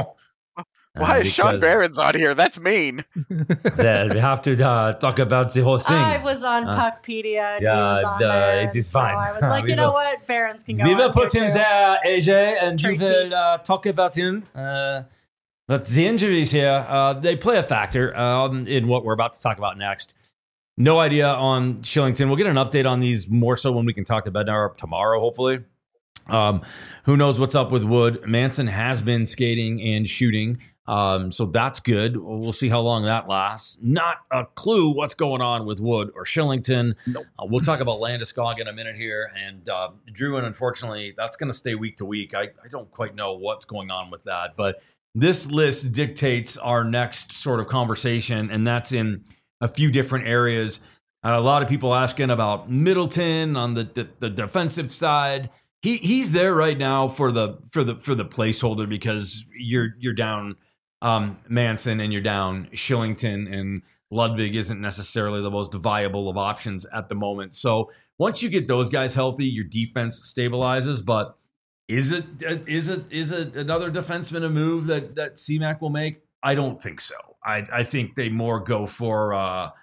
Why is Sean Barron's on here? That's mean. Well, we have to talk about the whole thing. I was on Puckpedia. And he was on there, it is fine. So I was like, you know what? Barron's can go we will on put him too. there, AJ, and Trade you will piece. talk about him. But the injuries here, they play a factor in what we're about to talk about next. No idea on Shillington. We'll get an update on these more so when we can talk to Bednar tomorrow, hopefully. Who knows what's up with Wood? Manson has been skating and shooting, so that's good. We'll see how long that lasts. Not a clue what's going on with Wood or Shillington. Nope. We'll talk about Landeskog in a minute here. And Druin, unfortunately, that's going to stay week to week. I don't quite know what's going on with that. But this list dictates our next sort of conversation, and that's in a few different areas. A lot of people asking about Middleton on the defensive side. He's there right now for the placeholder because you're down Manson and you're down Shillington, and Ludwig isn't necessarily the most viable of options at the moment. So once you get those guys healthy, your defense stabilizes. But is it another defenseman a move that CMAC will make? I don't think so. I think they more go for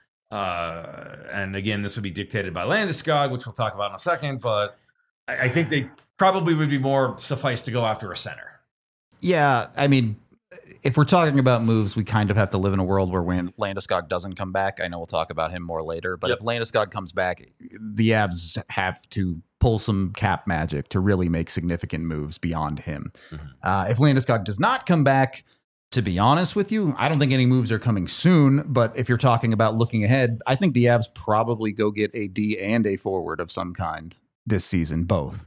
and again, this will be dictated by Landeskog, which we'll talk about in a second, but I think they probably would be more suffice to go after a center. Yeah, I mean, if we're talking about moves, we kind of have to live in a world where when Landeskog doesn't come back, I know we'll talk about him more later, but if Landeskog comes back, the Avs have to pull some cap magic to really make significant moves beyond him. Mm-hmm. If Landeskog does not come back, to be honest with you, I don't think any moves are coming soon, but if you're talking about looking ahead, I think the Avs probably go get a D and a forward of some kind this season, both.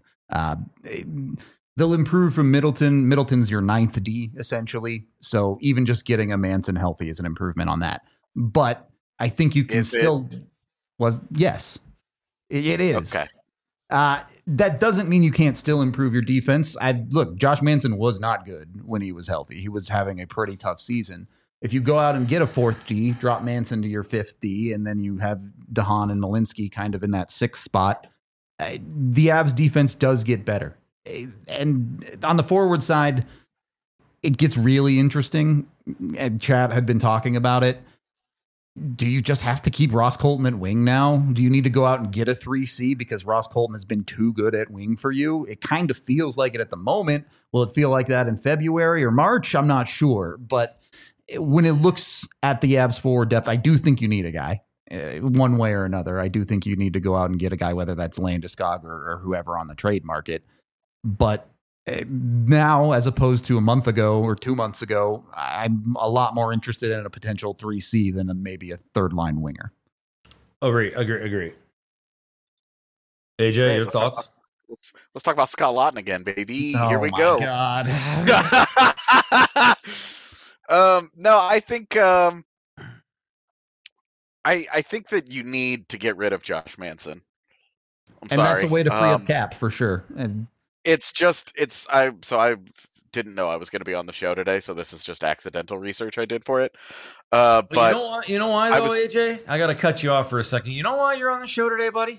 They'll improve from Middleton. Middleton's your 9th D, essentially. So even just getting a Manson healthy is an improvement on that. But I think you can still. Yes, it is. Okay. That doesn't mean you can't still improve your defense. Look, Josh Manson was not good when he was healthy. He was having a pretty tough season. If you go out and get a fourth D, drop Manson to your fifth D, and then you have DeHaan and Malinsky kind of in that sixth spot, the Avs defense does get better. And on the forward side, it gets really interesting. And Chad had been talking about it. Do you just have to keep Ross Colton at wing now? Do you need to go out and get a 3C because Ross Colton has been too good at wing for you? It kind of feels like it at the moment. Will it feel like that in February or March? I'm not sure. But when it looks at the Avs forward depth, I do think you need a guy one way or another. I do think you need to go out and get a guy, whether that's Landeskog or whoever on the trade market. But now, as opposed to a month ago or 2 months ago, I'm a lot more interested in a potential 3C than maybe a third line winger. Agree. AJ, your thoughts? Let's talk about Scott Laughton again, baby. Oh, here we go. God. No, I think I think that you need to get rid of Josh Manson. That's a way to free up cap for sure. And I didn't know I was going to be on the show today, so this is just accidental research I did for it. But you know why though, AJ? I got to cut you off for a second. You know why you're on the show today, buddy?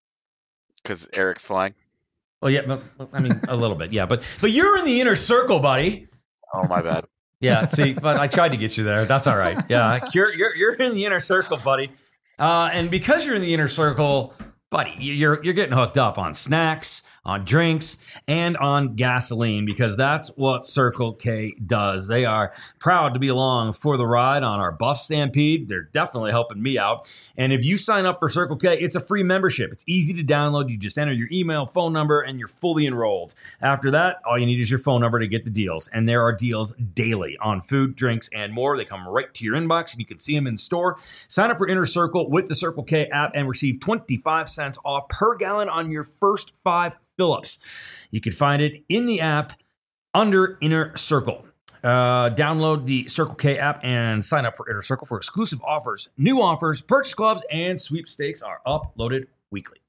Because Eric's flying. Well, yeah, but, I mean a little bit, yeah, but you're in the inner circle, buddy. Oh, my bad. Yeah, see, but I tried to get you there. That's all right. Yeah, you're in the inner circle, buddy. And because you're in the inner circle, buddy, you're getting hooked up on snacks, on drinks, and on gasoline, because that's what Circle K does. They are proud to be along for the ride on our Buff Stampede. They're definitely helping me out. And if you sign up for Circle K, it's a free membership. It's easy to download. You just enter your email, phone number, and you're fully enrolled. After that, all you need is your phone number to get the deals. And there are deals daily on food, drinks, and more. They come right to your inbox, and you can see them in store. Sign up for Inner Circle with the Circle K app and receive 25 cents off per gallon on your first 5 fill-ups. You can find it in the app under Inner Circle. Download the Circle K app and sign up for Inner Circle for exclusive offers, new offers, purchase clubs, and sweepstakes are uploaded weekly.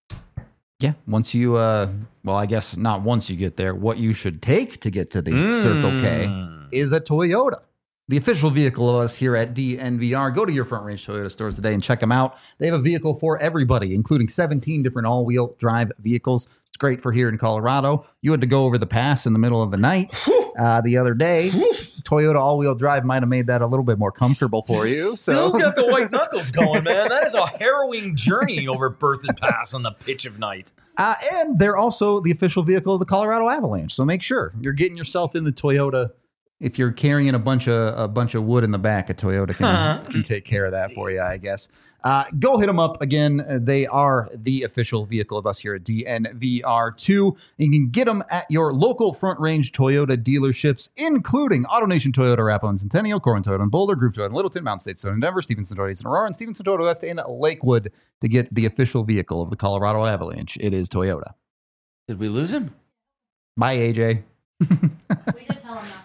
Yeah, once you, I guess not once you get there, what you should take to get to the Circle K is a Toyota. The official vehicle of us here at DNVR. Go to your Front Range Toyota stores today and check them out. They have a vehicle for everybody, including 17 different all-wheel drive vehicles. It's great for here in Colorado. You had to go over the pass in the middle of the night the other day. Toyota all-wheel drive might have made that a little bit more comfortable for you. Still got the white knuckles going, man. That is a harrowing journey over Berthoud Pass on the pitch of night. And they're also the official vehicle of the Colorado Avalanche. So make sure you're getting yourself in the Toyota. If you're carrying a bunch of wood in the back, a Toyota can take care of that for you, I guess. Go hit them up again. They are the official vehicle of us here at DNVR2. You can get them at your local Front Range Toyota dealerships, including AutoNation Toyota, Arapahoe and Centennial, Corwin Toyota and Boulder, Groove Toyota and Littleton, Mountain State Toyota and Denver, Stevenson Toyota and Aurora, and Stevenson Toyota West in Lakewood to get the official vehicle of the Colorado Avalanche. It is Toyota. Did we lose him? Bye, AJ. We did tell him that.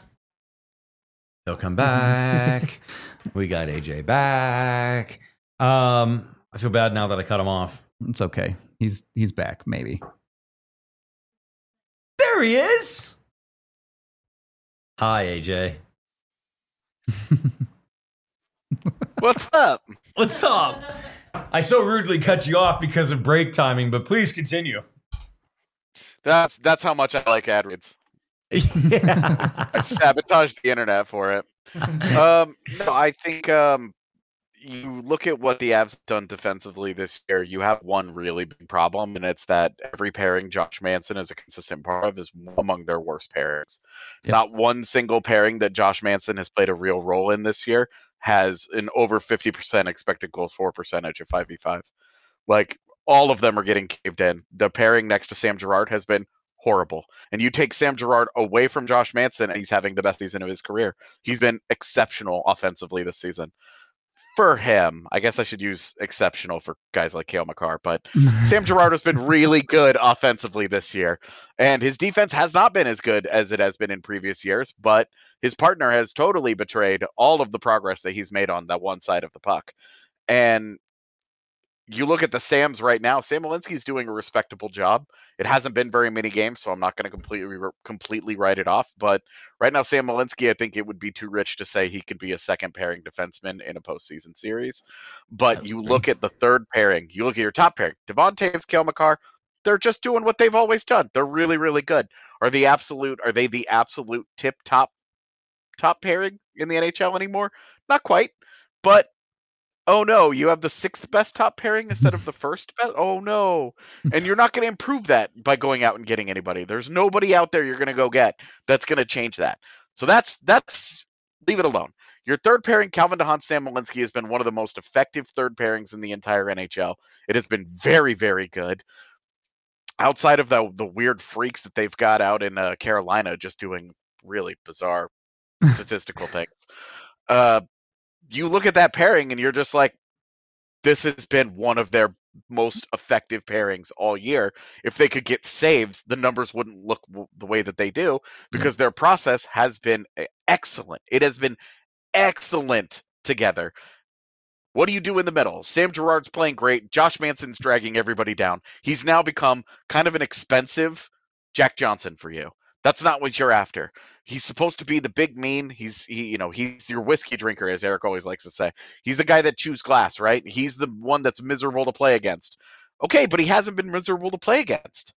He'll come back. We got AJ back. I feel bad now that I cut him off. It's okay. He's back, maybe. There he is. Hi, AJ. What's up? What's up? I so rudely cut you off because of break timing, but please continue. That's how much I like ad reads. Yeah. I sabotaged the internet for it. No, I think you look at what the Avs have done defensively this year, you have one really big problem, and it's that every pairing Josh Manson is a consistent part of is among their worst pairings. Yep. Not one single pairing that Josh Manson has played a real role in this year has an over 50% expected goals for percentage of 5v5. Like, all of them are getting caved in. The pairing next to Sam Girard has been horrible. And you take Sam Girard away from Josh Manson, and he's having the best season of his career. He's been exceptional offensively this season. For him, I guess I should use exceptional for guys like Cale Makar, but Sam Girard has been really good offensively this year. And his defense has not been as good as it has been in previous years, but his partner has totally betrayed all of the progress that he's made on that one side of the puck. And you look at the Sams right now. Sam Malinski's doing a respectable job. It hasn't been very many games, so I'm not going to completely write it off. But right now, Sam Malinski, I think it would be too rich to say he could be a second pairing defenseman in a postseason series. But you look at the third pairing. You look at your top pairing. Devon Toews, Cale Makar. They're just doing what they've always done. They're really, really good. Are they the absolute tip top pairing in the NHL anymore? Not quite. But oh no, you have the sixth best top pairing instead of the first best? Oh no. And you're not going to improve that by going out and getting anybody. There's nobody out there you're going to go get that's going to change that. So that's leave it alone. Your third pairing, Calvin DeHaan, Sam Malinski, has been one of the most effective third pairings in the entire NHL. It has been very, very good. Outside of the weird freaks that they've got out in Carolina just doing really bizarre statistical things. You look at that pairing and you're just like, this has been one of their most effective pairings all year. If they could get saves, the numbers wouldn't look the way that they do because their process has been excellent. It has been excellent together. What do you do in the middle? Sam Girard's playing great. Josh Manson's dragging everybody down. He's now become kind of an expensive Jack Johnson for you. That's not what you're after. He's supposed to be the big mean. He's your whiskey drinker, as Eric always likes to say. He's the guy that chews glass, right? He's the one that's miserable to play against. Okay, but he hasn't been miserable to play against.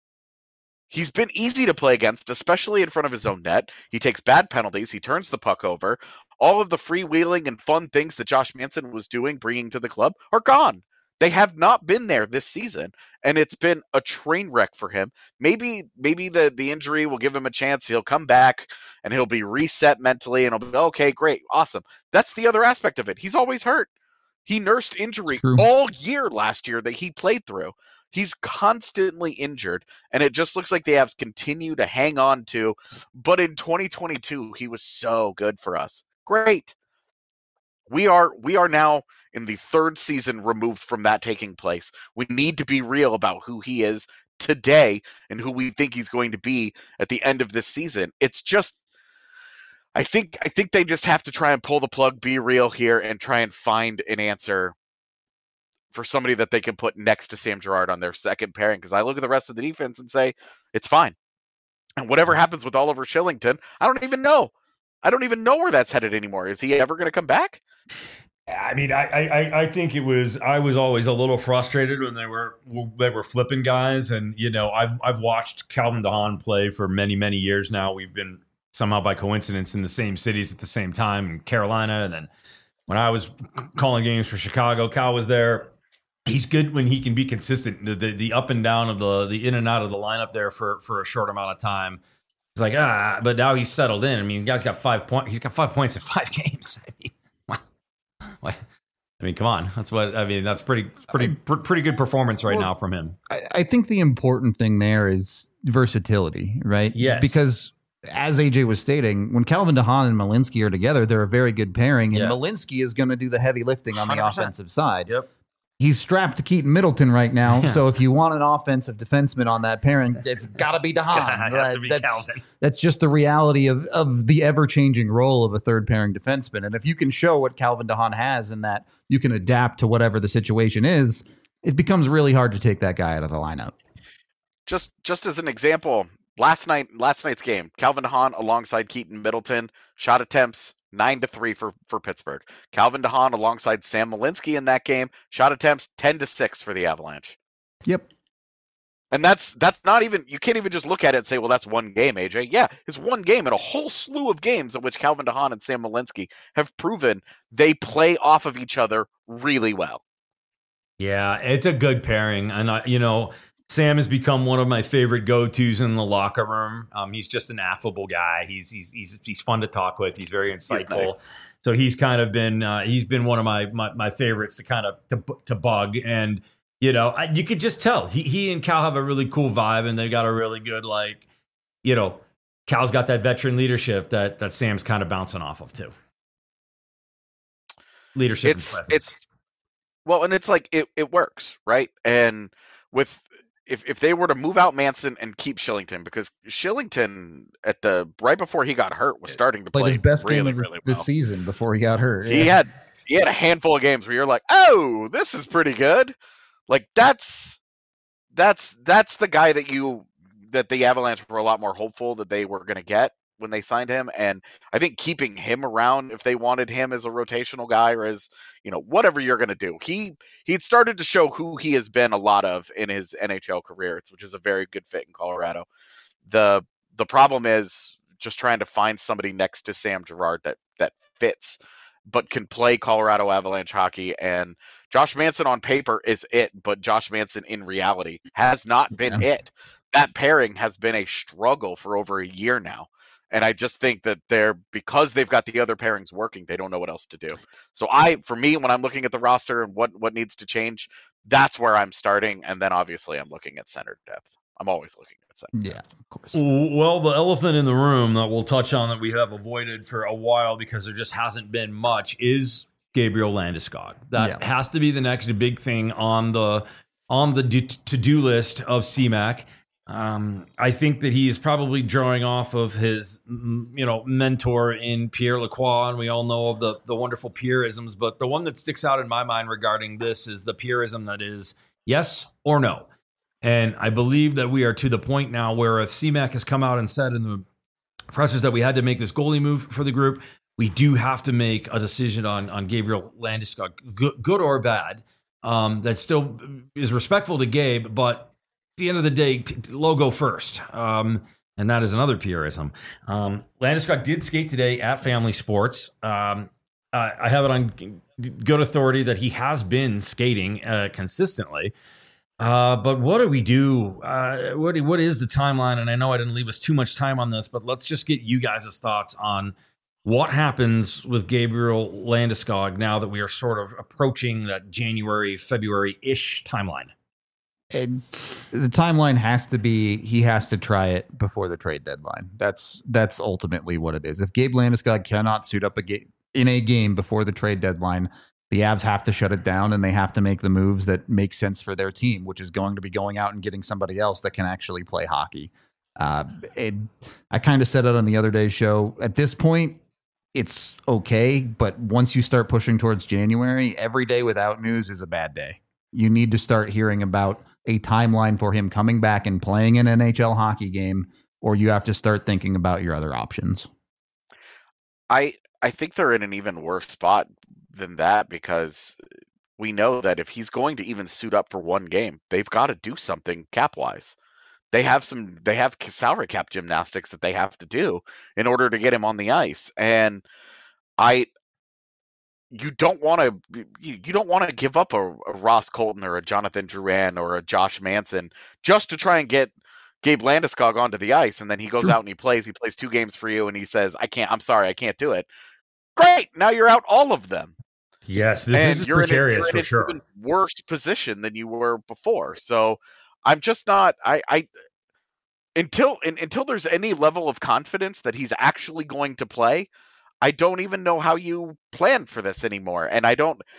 He's been easy to play against, especially in front of his own net. He takes bad penalties. He turns the puck over. All of the freewheeling and fun things that Josh Manson was doing, bringing to the club, are gone. They have not been there this season, and it's been a train wreck for him. Maybe the injury will give him a chance. He'll come back, and he'll be reset mentally, and he'll be, okay, great, awesome. That's the other aspect of it. He's always hurt. He nursed injury all year last year that he played through. He's constantly injured, and it just looks like the Avs continue to hang on to. But in 2022, he was so good for us. Great. We are now in the third season removed from that taking place. We need to be real about who he is today and who we think he's going to be at the end of this season. It's just, I think they just have to try and pull the plug, be real here, and try and find an answer for somebody that they can put next to Sam Girard on their second pairing. Because I look at the rest of the defense and say, it's fine. And whatever happens with Oliver Shillington, I don't even know. I don't even know where that's headed anymore. Is he ever going to come back? I mean, I think I was always a little frustrated when they were flipping guys, and I've watched Calvin DeHaan play for many years now. We've been somehow by coincidence in the same cities at the same time in Carolina, and then when I was calling games for Chicago, Cal was there. He's good when he can be consistent. The up and down of the in and out of the lineup there for a short amount of time. It's like but now he's settled in. I mean, the guy's got 5 points. He's got 5 points in 5 games. I mean, come on. That's pretty good performance right now from him. I think the important thing there is versatility, right? Yes. Because as AJ was stating, when Calvin DeHaan and Malinski are together, they're a very good pairing, and Malinski is going to do the heavy lifting on 100%. The offensive side. Yep. He's strapped to Keaton Middleton right now, so if you want an offensive defenseman on that pairing, it's got to be DeHaan. That's just the reality of the ever-changing role of a third-pairing defenseman. And if you can show what Calvin DeHaan has and that you can adapt to whatever the situation is, it becomes really hard to take that guy out of the lineup. Just as an example, last night's game, Calvin DeHaan alongside Keaton Middleton, shot attempts 9-3 for Pittsburgh. Calvin DeHaan alongside Sam Malinski in that game, shot attempts 10-6 for the Avalanche. Yep. And that's not even, you can't even just look at it and say, well, that's one game, AJ. Yeah, it's one game and a whole slew of games in which Calvin DeHaan and Sam Malinski have proven they play off of each other really well. Yeah, it's a good pairing. And, Sam has become one of my favorite go-tos in the locker room. He's just an affable guy. He's fun to talk with. He's very insightful. He's nice. So he's kind of been he's been one of my favorites to kind of to bug. And you could just tell he and Cal have a really cool vibe, and they got a really good Cal's got that veteran leadership that Sam's kind of bouncing off of too. Leadership and presence. And it's like it works, right? And with if they were to move out Manson and keep Shillington, because Shillington right before he got hurt was starting to play his best really, game of really the well. season before he got hurt. Yeah. he had a handful of games where you're like, oh, this is pretty good. Like that's the guy that the Avalanche were a lot more hopeful that they were going to get when they signed him. And I think keeping him around, if they wanted him as a rotational guy or as, whatever you're going to do, he'd started to show who he has been a lot of in his NHL career, which is a very good fit in Colorado. The problem is just trying to find somebody next to Sam Girard that fits, but can play Colorado Avalanche hockey. And Josh Manson on paper is it, but Josh Manson in reality has not been it. That pairing has been a struggle for over a year now. And I just think that because they've got the other pairings working, they don't know what else to do. So for me, when I'm looking at the roster and what needs to change, that's where I'm starting. And then obviously I'm looking at center depth. I'm always looking at center depth. Yeah, of course. Well, the elephant in the room that we'll touch on that we have avoided for a while because there just hasn't been much is Gabriel Landeskog. That has to be the next big thing on the to-do list of CMAC. I think that he is probably drawing off of his, mentor in Pierre Lacroix, and we all know of the wonderful Pierreisms. But the one that sticks out in my mind regarding this is the Pierreism that is yes or no. And I believe that we are to the point now where if CMAC has come out and said in the pressers that we had to make this goalie move for the group, we do have to make a decision on Gabriel Landeskog, good or bad. That still is respectful to Gabe, but at the end of the day, logo first. And that is another Pierreism. Landeskog did skate today at Family Sports. I have it on good authority that he has been skating consistently. But what do we do? What is the timeline? And I know I didn't leave us too much time on this, but let's just get you guys' thoughts on what happens with Gabriel Landeskog now that we are sort of approaching that January, February-ish timeline. And the timeline has to be he has to try it before the trade deadline. That's ultimately what it is. If Gabe Landeskog cannot suit up in a game before the trade deadline, the Avs have to shut it down and they have to make the moves that make sense for their team, which is going to be going out and getting somebody else that can actually play hockey. I kind of said it on the other day's show. At this point, it's okay, but once you start pushing towards January, every day without news is a bad day. You need to start hearing about a timeline for him coming back and playing an NHL hockey game, or you have to start thinking about your other options. I think they're in an even worse spot than that because we know that if he's going to even suit up for one game, they've got to do something cap-wise. They have salary cap gymnastics that they have to do in order to get him on the ice. And you don't want to give up a Ross Colton or a Jonathan Drouin or a Josh Manson just to try and get Gabe Landeskog onto the ice. And then he goes out and he plays 2 games for you. And he says, I'm sorry, I can't do it. Great. Now you're out all of them. Yes. This is precarious for sure. Even worse position than you were before. So I'm just not, until there's any level of confidence that he's actually going to play, I don't even know how you plan for this anymore. And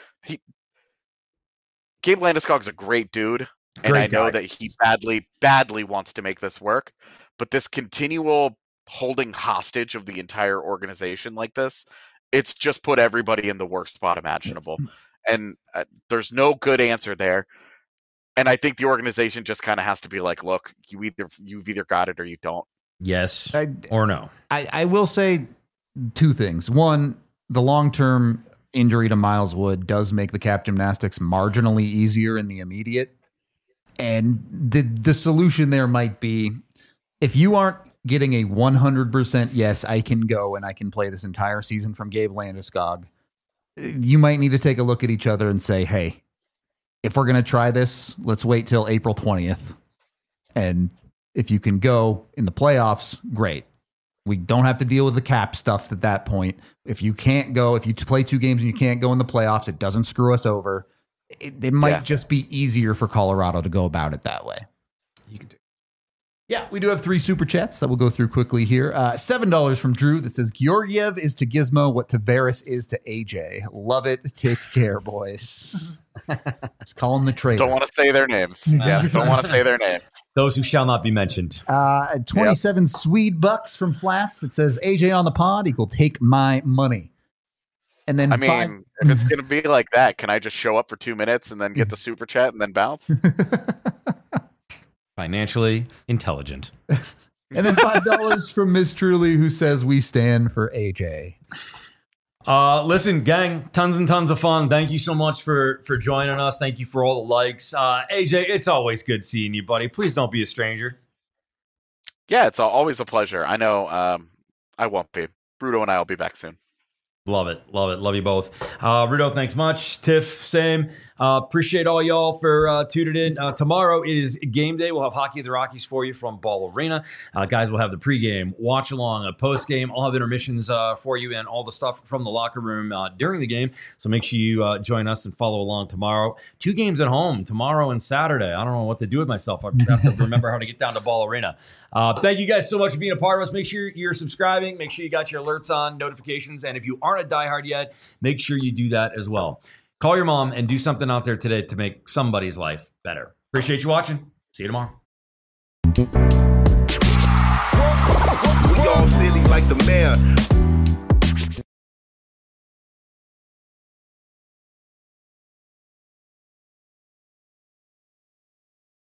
Gabe Landeskog's a great dude. And I know that he badly wants to make this work, but this continual holding hostage of the entire organization like this, it's just put everybody in the worst spot imaginable. And there's no good answer there. And I think the organization just kind of has to be like, look, you've either got it or you don't. Yes or no. I will say 2 things. One, the long-term injury to Miles Wood does make the cap gymnastics marginally easier in the immediate. And the solution there might be, if you aren't getting a 100% yes, I can go and I can play this entire season from Gabe Landeskog, you might need to take a look at each other and say, hey, if we're going to try this, let's wait till April 20th. And if you can go in the playoffs, great. We don't have to deal with the cap stuff at that point. If you can't go, if you play 2 games and you can't go in the playoffs, it doesn't screw us over. It might just be easier for Colorado to go about it that way. You can do. Yeah, we do have 3 super chats that we'll go through quickly here. $7 from Drew that says, Georgiev is to Gizmo what Tavares is to AJ. Love it. Take care, boys. Let's call them the traitor. Don't want to say their names. Yeah, don't want to say their names. Those who shall not be mentioned. 27 Swede bucks from Flats that says, AJ on the pod equal take my money. And then I mean, if it's going to be like that, can I just show up for 2 minutes and then get the super chat and then bounce? Financially intelligent. And then $5 from Miss Truly, who says we stand for AJ. Listen, gang, tons and tons of fun. Thank you so much for joining us. Thank you for all the likes. AJ, it's always good seeing you, buddy. Please don't be a stranger. Yeah, it's always a pleasure. I know I won't be. Rudo and I will be back soon. Love it. Love you both. Rudo, thanks much. Tiff, same. Appreciate all y'all for tuning in. Tomorrow it is game day. We'll have Hockey of the Rockies for you from Ball Arena. Guys, we'll have the pregame, watch along, a postgame. I'll have intermissions for you and all the stuff from the locker room during the game. So make sure you join us and follow along tomorrow. 2 games at home, tomorrow and Saturday. I don't know what to do with myself. I have to remember how to get down to Ball Arena. Thank you guys so much for being a part of us. Make sure you're subscribing. Make sure you got your alerts on, notifications. And if you aren't a diehard yet, make sure you do that as well. Call your mom and do something out there today to make somebody's life better. Appreciate you watching. See you tomorrow. We all silly like the mayor.